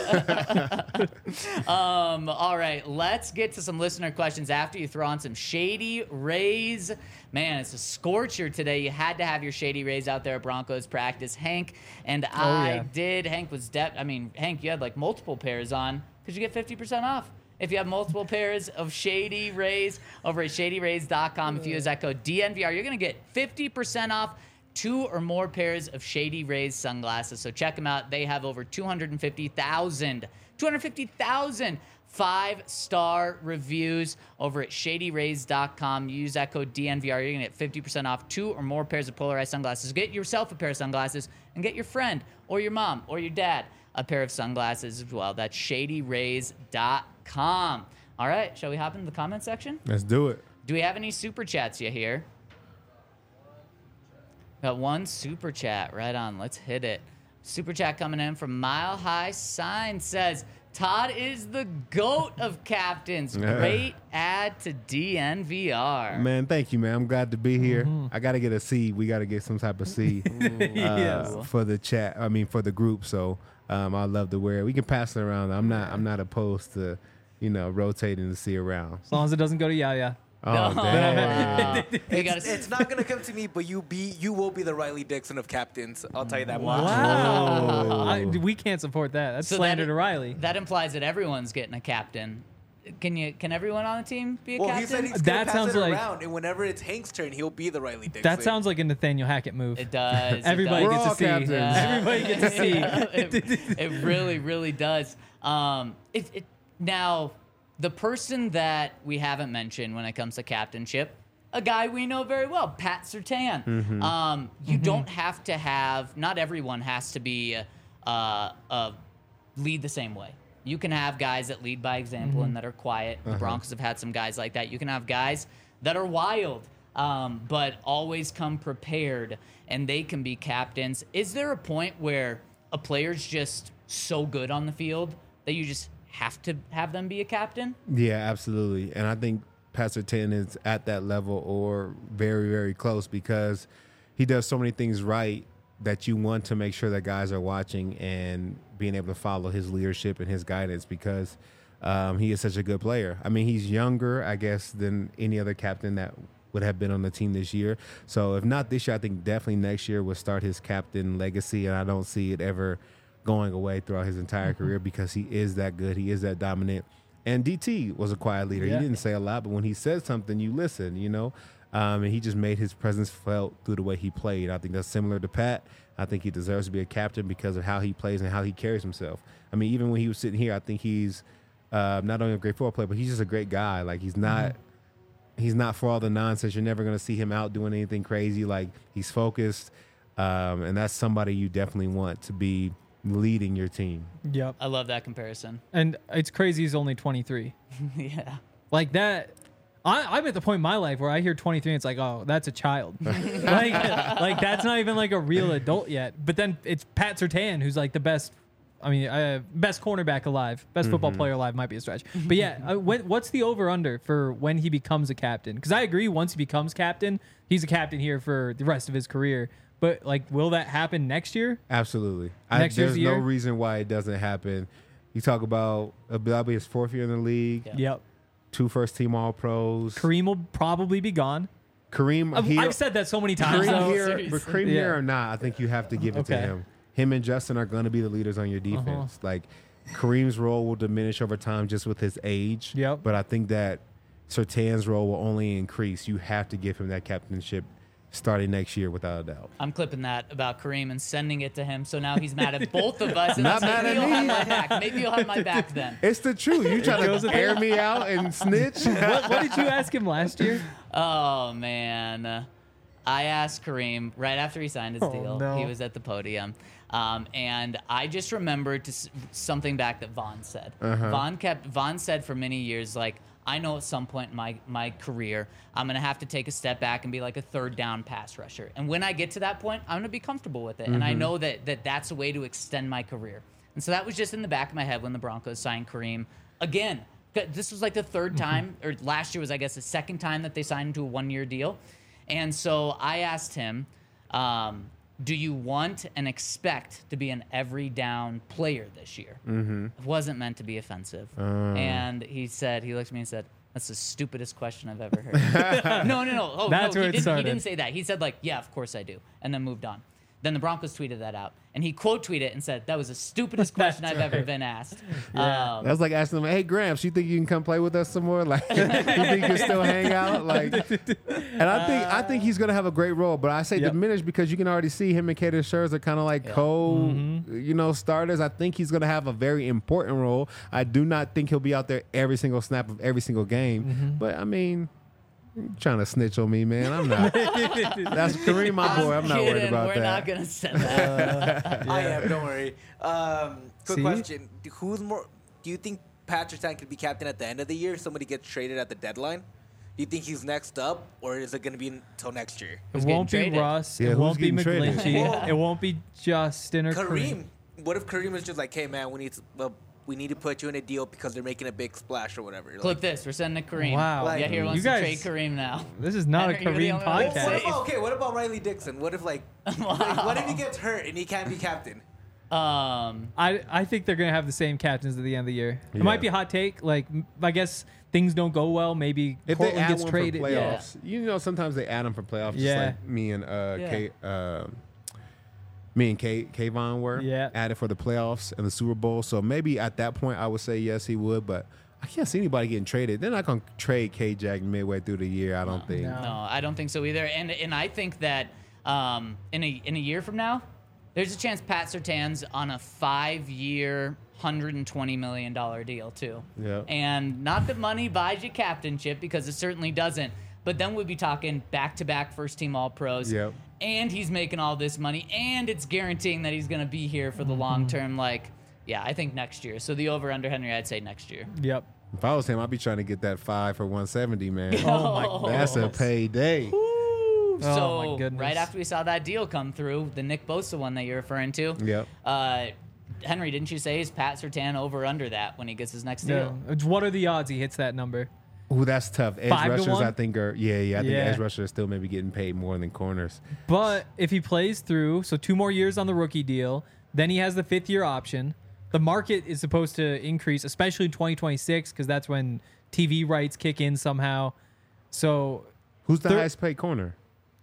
All right, let's get to some listener questions after you throw on some Shady Rays. Man, it's a scorcher today. You had to have your Shady Rays out there at Broncos practice. Hank and I yeah. did. Hank was Hank, you had like multiple pairs on because you get 50% off. If you have multiple pairs of Shady Rays over at shadyrays.com, if you use that code DNVR, you're going to get 50% off 2 or more pairs of Shady Rays sunglasses. So check them out. They have over 250,000 5-star reviews over at shadyrays.com. Use that code DNVR. You're going to get 50% off 2 or more pairs of polarized sunglasses. Get yourself a pair of sunglasses and get your friend or your mom or your dad a pair of sunglasses as well. That's shadyrays.com. All right, shall we hop into the comment section? Let's do it. Do we have any super chats you hear? Got one super chat. Right on. Let's hit it. Super chat coming in from Mile High Sign says, Todd is the GOAT of captains. Great add to DNVR. Man, thank you, man. I'm glad to be here. I got to get a C. We got to get some type of C for the chat. I mean, for the group. So I love to wear it. We can pass it around. I'm not opposed to, rotating the C around. As long as it doesn't go to Yaya. Oh, damn. It's not gonna come to me, but you will be the Riley Dixon of captains. I'll tell you that much. Wow. We can't support that. That's So slander to Riley. That implies that everyone's getting a captain. Can everyone on the team be a Well, captain? he said he's That gonna pass sounds it like- around, and whenever it's Hank's turn, he'll be the Riley Dixon. That sounds like a Nathaniel Hackett move. It does. Everybody it We're does. all gets a C. captains. Everybody gets a C. It really, really does. Now, the person that we haven't mentioned when it comes to captainship, a guy we know very well, Pat Surtain. You don't have to have. Not everyone has to be lead the same way. You can have guys that lead by example and that are quiet. The Broncos have had some guys like that. You can have guys that are wild, but always come prepared, and they can be captains. Is there a point where a player's just so good on the field that you just have to have them be a captain? Yeah, absolutely. And I think Pastor 10 is at that level or very, very close because he does so many things right that you want to make sure that guys are watching and being able to follow his leadership and his guidance because he is such a good player. I mean, he's younger, I guess, than any other captain that would have been on the team this year. So if not this year, I think definitely next year will start his captain legacy, and I don't see it ever going away throughout his entire career because he is that good. He is that dominant. And DT was a quiet leader. Yeah. He didn't say a lot, but when he said something, you listen, and he just made his presence felt through the way he played. I think that's similar to Pat. I think he deserves to be a captain because of how he plays and how he carries himself. I mean, even when he was sitting here, I think he's not only a great football player, but he's just a great guy. Like, he's not for all the nonsense. You're never going to see him out doing anything crazy. Like, he's focused, and that's somebody you definitely want to be leading your team. Yep. I love that comparison. And it's crazy he's only 23. Yeah. Like that. I'm at the point in my life where I hear 23 and it's like, oh, that's a child. like that's not even like a real adult yet. But then it's Pat Surtain, who's like the best, best cornerback alive. Best football player alive might be a stretch. But yeah, what's the over-under for when he becomes a captain? Because I agree, once he becomes captain, he's a captain here for the rest of his career. But like, will that happen next year? Absolutely. Next year's There's no year? reason why it doesn't happen. You talk about that'll be his 4th year in the league. Yeah. Yep. 2 first-team All-Pros. Kareem will probably be gone. Kareem here, I've said that so many times. Kareem though. here, Seriously. but Kareem Yeah. here or not, I think you have to give it to Okay. him. Him and Justin are going to be the leaders on your defense. Like, Kareem's role will diminish over time just with his age. Yep. But I think that Surtain's role will only increase. You have to give him that captainship starting next year without a doubt. I'm clipping that about Kareem and sending it to him. So now he's mad at both of us. And Not maybe mad at he'll me. have my back. Maybe he'll have my back then. It's the truth. You trying to air me out and snitch? What did you ask him last year? Oh, man. I asked Kareem right after he signed his deal. no. He was at the podium. And I just remembered something back that Vaughn said. Vaughn said for many years, like, I know at some point in my career, I'm going to have to take a step back and be like a third down pass rusher. And when I get to that point, I'm going to be comfortable with it. And I know that's a way to extend my career. And so that was just in the back of my head when the Broncos signed Kareem. Again, this was like the third time, or last year was, I guess, the second time that they signed him to a one-year deal. And so I asked him, do you want and expect to be an every down player this year? It wasn't meant to be offensive. And he looked at me and said, that's the stupidest question I've ever heard. No. Oh, That's no, where it he started. didn't say that. He said, like, yeah, of course I do. And then moved on. Then the Broncos tweeted that out. And he quote tweeted and said, that was the stupidest question I've ever been asked. That's like asking them, "Hey, Gramps, you think you can come play with us some more? Like, you think you can still hang out?" Like, and I think he's gonna have a great role. But I say diminished because you can already see him and Kaden Scherz are kind of like starters. I think he's gonna have a very important role. I do not think he'll be out there every single snap of every single game. But I mean, you're trying to snitch on me, man. I'm not. That's Kareem, my boy. I'm not worried kidding. about We're that. not going to send that. I am. Don't worry. Quick See? question: who's more? Do you think Patrick Surtain could be captain at the end of the year? If somebody gets traded at the deadline. Do you think he's next up, or is it going to be until next year? It getting won't be traded? Russ. Yeah, it who's won't be getting traded? McGlinchey. Whoa. It won't be Justin or Kareem. What if Kareem is just like, "Hey, man, we need to put you in a deal because they're making a big splash or whatever." Clip Like, this. We're sending it to Kareem. Wow. Like, Yeah, here you wants guys- to trade Kareem now. This is not a Henry, you're the Kareem only one that podcast. said- what about Riley Dixon? What if like what if he gets hurt and he can't be captain? I think they're gonna have the same captains at the end of the year. It Yeah. might be a hot take. Like, I guess things don't go well. Maybe If they Portland add gets one traded. for Yeah. playoffs, you know, sometimes they add them for playoffs, just Yeah. like me and Kayvon were Yeah. added for the playoffs and the Super Bowl. So maybe at that point I would say yes, he would, but I can't see anybody getting traded. They're not going to trade K-Jack midway through the year, I don't think. No. No, I don't think so either. And I think that in a year from now, there's a chance Pat Surtain's on a 5-year, $120 million deal too. Yeah. And not that money buys you captainship, because it certainly doesn't. But then we'd be talking back-to-back first-team All-Pros. Yep. And he's making all this money, and it's guaranteeing that he's going to be here for the long term. Like, yeah, I think next year. So the over-under, Henry, I'd say next year. Yep. If I was him, I'd be trying to get that 5 for 170, man. Oh my That's a payday. Oh, So my goodness. right after we saw that deal come through, the Nick Bosa one that you're referring to, Yep. Henry, didn't you say is Pat Surtain over under that when he gets his next No. deal? What are the odds he hits that number? Ooh, that's tough. Edge 5 to rushers, 1? I think, I think Yeah. edge rushers are still maybe getting paid more than corners. But if he plays through, so 2 more years on the rookie deal, then he has the 5th-year option. The market is supposed to increase, especially in 2026, because that's when TV rights kick in somehow. So Who's the Thir- highest paid corner?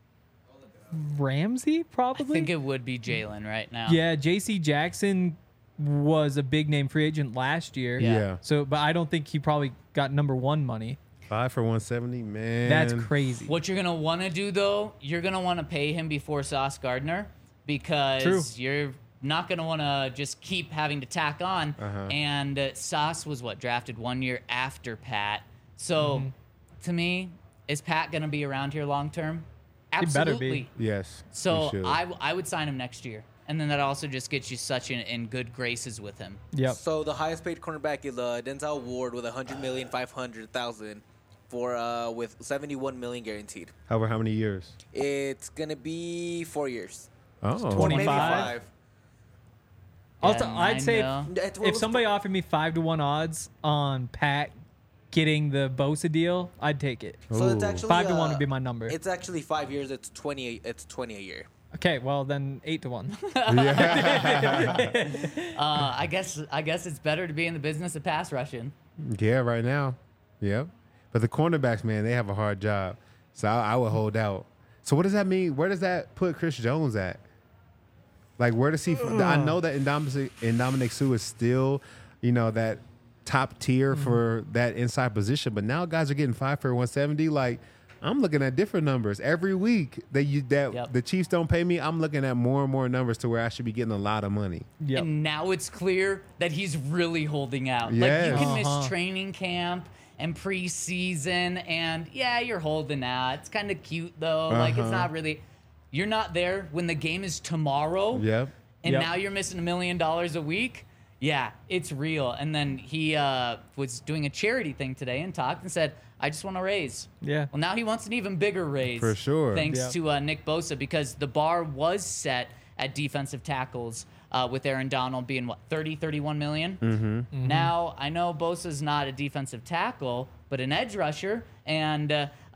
Ramsey, I probably? think it would be Jalen right now. Yeah, J.C. Jackson was a big name free agent last year. Yeah. So, but I don't think he probably got number 1 money. 5 for 170, man. That's crazy. What you're gonna want to do though, you're gonna want to pay him before Sauce Gardner, because True. you're not gonna want to just keep having to tack on. And Sauce was drafted 1 year after Pat. So to me, is Pat gonna be around here long term? He better be. Absolutely. Yes. So you should. I would sign him next year, and then that also just gets you such in good graces with him. Yep. So the highest paid cornerback is Denzel Ward with $100,500,000 for with $71 million guaranteed. However, how many years? It's gonna be 4 years. Oh, 20. Maybe 25? 5. Also, Yeah, I'd 9 say mil. if somebody offered me 5-1 odds on Pat getting the Bosa deal, I'd take it. So it's Ooh. actually 5-1 would be my number. It's actually 5 years. It's 20. It's 20 a year. Okay, well then 8-1. I guess it's better to be in the business of pass rushing. Yeah, right now. Yep. But the cornerbacks, man, they have a hard job. So I would hold out. So what does that mean? Where does that put Chris Jones at? Like, where does he? I know that Dominic Sue is still, that top tier for that inside position. But now guys are getting 5 for 170. Like, I'm looking at different numbers every week that Yep. the Chiefs don't pay me. I'm looking at more and more numbers to where I should be getting a lot of money. Yep. And now it's clear that he's really holding out. Yes. Like, you can miss Uh-huh. training camp and preseason, and yeah, you're holding out. It's kind of cute, though. Like, it's not really. You're not there when the game is tomorrow. Yep. And Yep. now you're missing $1 million a week. Yeah, it's real. And then he was doing a charity thing today and talked and said, I just want to raise. Yeah. Well, now he wants an even bigger raise. For sure. Thanks Yep. to Nick Bosa, because the bar was set at defensive tackles with Aaron Donald being, what, 30, 31 million? Mm-hmm. Now, I know Bosa's not a defensive tackle, but an edge rusher. And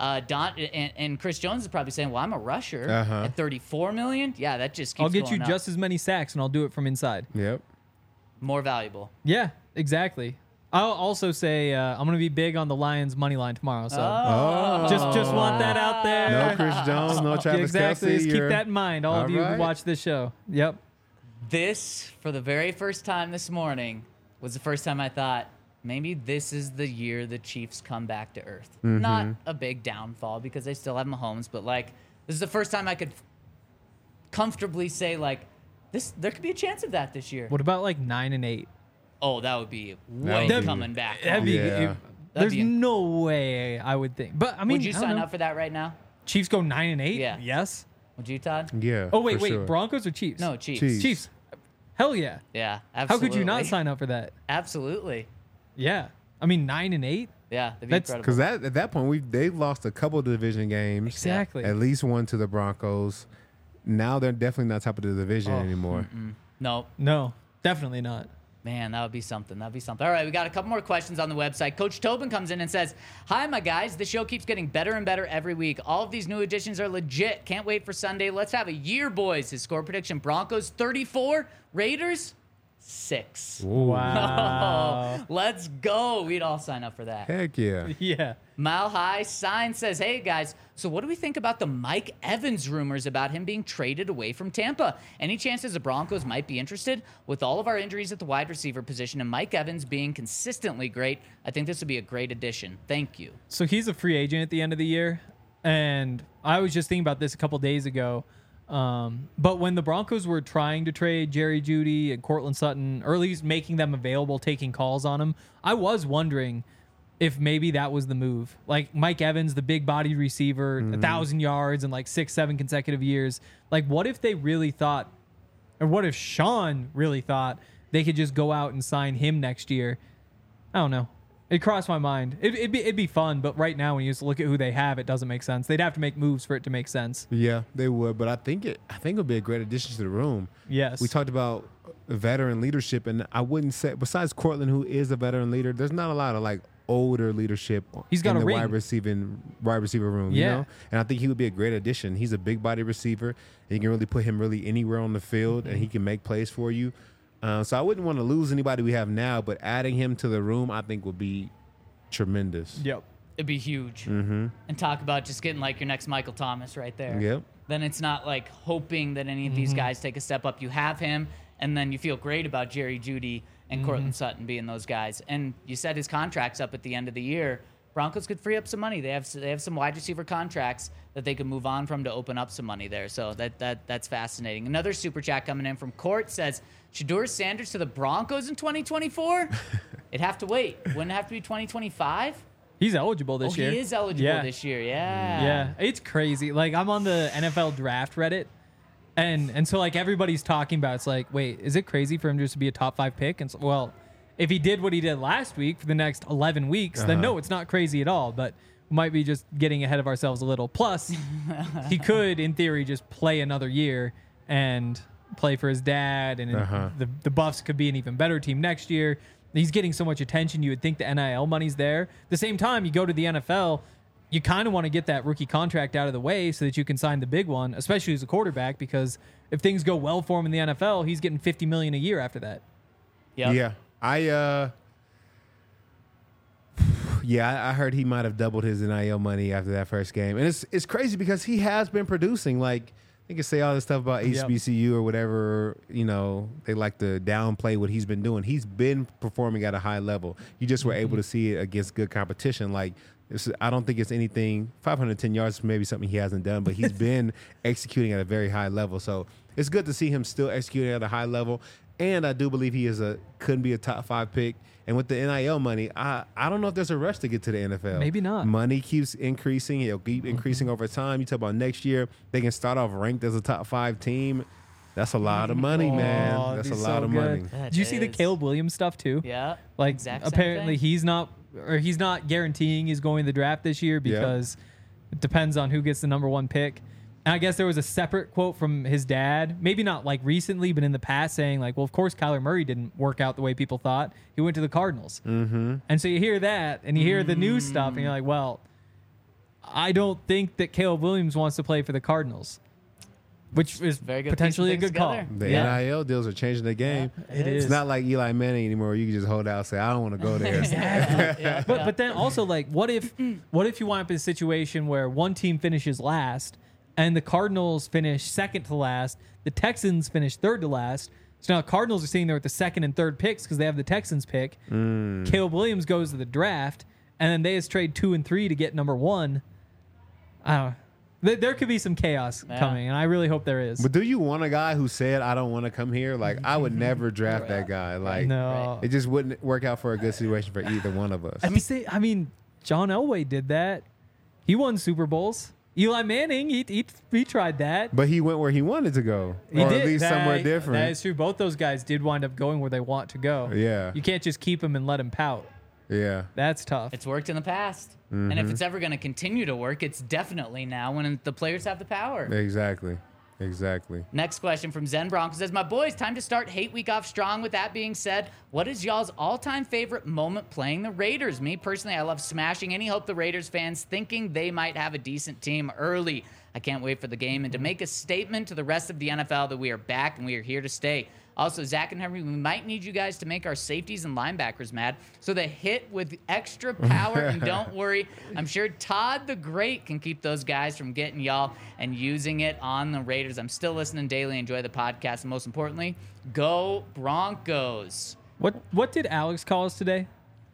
and Chris Jones is probably saying, well, I'm a rusher at 34 million. Yeah, that just keeps I'll get going you up. just as many sacks, and I'll do it from inside. Yep. More valuable. Yeah, exactly. I'll also say I'm going to be big on the Lions money line tomorrow. So Oh. just want that out there. No Chris Jones, no Travis Exactly. Kelce. Just keep that in mind, all of you right. who watch this show. Yep. This, for the very first time this morning, was the first time I thought, maybe this is the year the Chiefs come back to earth. Mm-hmm. Not a big downfall because they still have Mahomes, but like, this is the first time I could comfortably say, like, there could be a chance of that this year. What about like 9-8? Oh, that would be would way be- coming back. That'd be, Yeah. there's be- no way I would think. But I mean, Would you I don't sign know. up for that right now? Chiefs go 9-8? Yeah. Yes. Would you, Todd? Yeah. Oh wait, for wait. sure. Broncos or Chiefs? No, Chiefs. Chiefs. Chiefs. Hell yeah. Yeah, How absolutely. could you not sign up for that? Absolutely. Yeah. I mean, 9-8. Yeah, that'd be That's- incredible. Because at that point, they've lost a couple of division games. Exactly. At least one to the Broncos. Now they're definitely not top of the division anymore. No, No, definitely not. man, that would be something. That'd be something. All right, we got a couple more questions on the website. Coach Tobin comes in and says, hi, my guys. The show keeps getting better and better every week. All of these new additions are legit. Can't wait for Sunday. Let's have a year, boys. His score prediction, Broncos 34, Raiders 6. Wow. Oh, let's go. We'd all sign up for that. Heck yeah. Yeah. Mile High Sign says, hey guys, so what do we think about the Mike Evans rumors about him being traded away from Tampa? Any chances the Broncos might be interested? With all of our injuries at the wide receiver position and Mike Evans being consistently great, I think this would be a great addition. Thank you. So he's a free agent at the end of the year. And I was just thinking about this a couple days ago. But when the Broncos were trying to trade Jerry Jeudy and Cortland Sutton, or at least making them available, taking calls on them, I was wondering if maybe that was the move. Like Mike Evans, the big bodied receiver, 1,000 yards in like 6-7 consecutive years. Like, what if they really thought, or what if Sean really thought they could just go out and sign him next year? I don't know. It crossed my mind. It'd be fun, but right now when you just look at who they have, it doesn't make sense. They'd have to make moves for it to make sense. Yeah, they would. But I think it would be a great addition to the room. Yes. We talked about veteran leadership, and I wouldn't say, besides Cortland, who is a veteran leader, there's not a lot of like older leadership He's got in a the ring. wide receiver room. You Yeah. know? And I think he would be a great addition. He's a big body receiver, and you can really put him really anywhere on the field, and he can make plays for you. So I wouldn't want to lose anybody we have now, but adding him to the room, I think would be tremendous. Yep. It'd be huge. And talk about just getting like your next Michael Thomas right there. Yep. Then it's not like hoping that any of these guys take a step up. You have him, and then you feel great about Jerry Jeudy and Cortland Sutton being those guys. And you said his contract's up at the end of the year. Broncos could free up some money. They have some wide receiver contracts that they could move on from to open up some money there. So that's fascinating. Another super chat coming in from Court says, Shedeur Sanders to the Broncos in 2024? It'd have to wait. Wouldn't it have to be 2025? He's eligible this year. He is eligible Yeah. this year. Yeah. Yeah, it's crazy. Like I'm on the NFL draft Reddit, and so like everybody's talking about. It's like, wait, is it crazy for him just to be a top 5 pick? And so, well, if he did what he did last week for the next 11 weeks, then no, it's not crazy at all. But we might be just getting ahead of ourselves a little. Plus, he could, in theory, just play another year and play for his dad, and the Buffs could be an even better team next year. He's getting so much attention. You would think the NIL money's there. At the same time, you go to the NFL, you kind of want to get that rookie contract out of the way so that you can sign the big one, especially as a quarterback, because if things go well for him in the NFL, he's getting $50 million a year after that. Yep. Yeah. I heard he might have doubled his NIL money after that first game. And it's crazy because he has been producing. Like, they can say all this stuff about HBCU or whatever, you know, they like to downplay what he's been doing. He's been performing at a high level. You just were able to see it against good competition. Like I don't think it's anything. 510 yards is maybe something he hasn't done, but he's been executing at a very high level. So it's good to see him still executing at a high level. And I do believe he couldn't be a top 5 pick. And with the NIL money, I don't know if there's a rush to get to the NFL. Maybe not. Money keeps increasing. It'll keep increasing over time. You talk about next year, they can start off ranked as a top 5 team. That's a lot of money, man. Oh, That's a it'd be lot so of good. money. That Did you see the is- Caleb Williams stuff too? Yeah. Like exact same apparently thing. he's not guaranteeing he's going to the draft this year because it depends on who gets the number 1 pick. And I guess there was a separate quote from his dad, maybe not like recently, but in the past, saying like, well, of course Kyler Murray didn't work out the way people thought. He went to the Cardinals. Mm-hmm. And so you hear that and you hear the new stuff and you're like, well, I don't think that Caleb Williams wants to play for the Cardinals, which is Very good potentially a piecing good things call. together. The Yeah. NIL deals are changing the game. It It's is. not like Eli Manning anymore. Where you can just hold out and say, I don't want to go there. But then also like what if you wind up in a situation where one team finishes last and the Cardinals finish second to last, the Texans finish third to last. So now the Cardinals are sitting there with the second and third picks because they have the Texans pick. Caleb Williams goes to the draft, and then they just trade 2 and 3 to get number 1. I don't know. There could be some chaos coming, and I really hope there is. But do you want a guy who said, I don't want to come here? Like, I would never draft that guy. Like, No. it just wouldn't work out for a good situation for either one of us. I mean, John Elway did that. He won Super Bowls. Eli Manning, he tried that. But he went where he wanted to go, He or did. at least somewhere That different. is true. Both those guys did wind up going where they want to go. Yeah. You can't just keep them and let them pout. Yeah. That's tough. It's worked in the past. And if it's ever going to continue to work, it's definitely now when the players have the power. Exactly. Next question from Zen Bronco says, my boys, time to start Hate Week off strong. With that being said, what is y'all's all-time favorite moment playing the Raiders? Me, personally, I love smashing any hope the Raiders fans thinking they might have a decent team early. I can't wait for the game and to make a statement to the rest of the NFL that we are back and we are here to stay. Also, Zach and Henry, we might need you guys to make our safeties and linebackers mad. So they hit with extra power, and don't worry, I'm sure Todd the Great can keep those guys from getting y'all and using it on the Raiders. I'm still listening daily, enjoy the podcast, and most importantly, go Broncos. What did Alex call us today?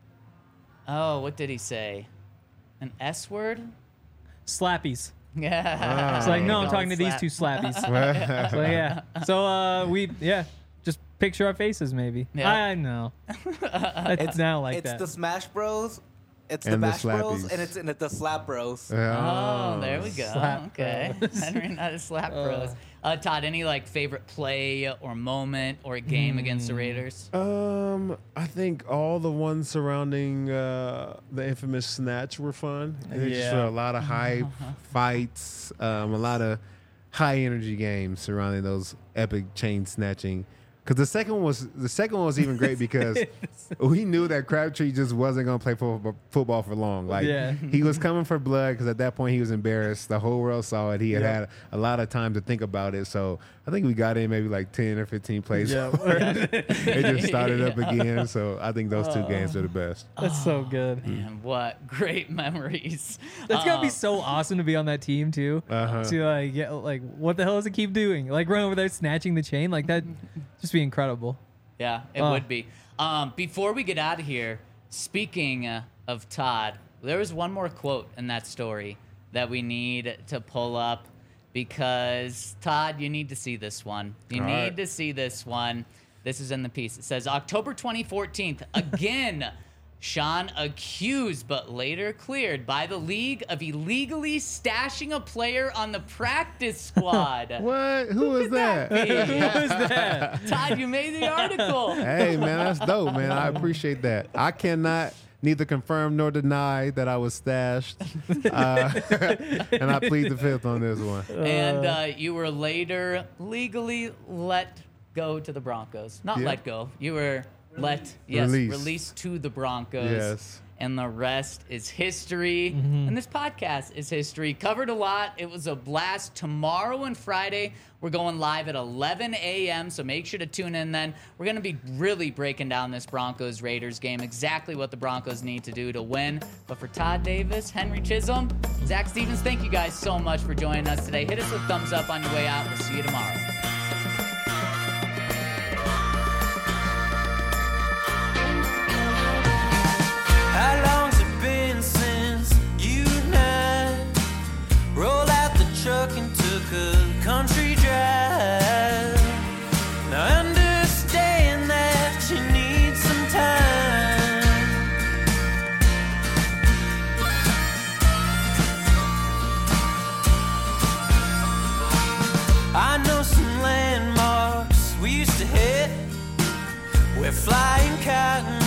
Oh, what did he say? An S word? Slappies. Yeah. It's like, no, I'm Call talking it to these two slappies. So yeah. So just picture our faces maybe. Yeah. I know. It's now like It's that. the Smash Bros. It's the And the Bash Bros. Slappies. And it's in the Slap Bros. Oh, there we go. Slap Okay. Henry, not a slap bros. Todd, any like favorite play or moment or game against the Raiders? I think all the ones surrounding the infamous snatch were fun. They just Yeah. were a lot of high fights, a lot of high energy games surrounding those epic chain snatching. Because the second one was even great because we knew that Crabtree just wasn't going to play football for long. Like Yeah. he was coming for blood because at that point he was embarrassed. The whole world saw it. He had had a lot of time to think about it. So I think we got in maybe like 10 or 15 plays. It just started up again. So I think those two games are the best. That's so good. Man, what great memories. That's gotta be so awesome to be on that team too. To like what the hell does it keep doing? Like run over there snatching the chain like that, just be incredible. Yeah, it would be. Before we get out of here, speaking of Todd, there was one more quote in that story that we need to pull up because, Todd, you need to see this one. You All need right. to see this one. This is in the piece. It says, October 2014, again, Sean accused but later cleared by the league of illegally stashing a player on the practice squad. What? Who was that? Who is that? Todd, you made the article. Hey, man, that's dope, man. I appreciate that. I cannot neither confirm nor deny that I was stashed. And I plead the fifth on this one. And you were later legally let go to the Broncos. Not Yeah. let go. You were released to the Broncos. Yes. And the rest is history. And this podcast is history. Covered a lot. It was a blast. Tomorrow and Friday, we're going live at 11 a.m. So make sure to tune in then. We're going to be really breaking down this Broncos-Raiders game, exactly what the Broncos need to do to win. But for Todd Davis, Henry Chisholm, Zach Stevens, thank you guys so much for joining us today. Hit us with thumbs up on your way out. We'll see you tomorrow. How long's it been since flying cotton.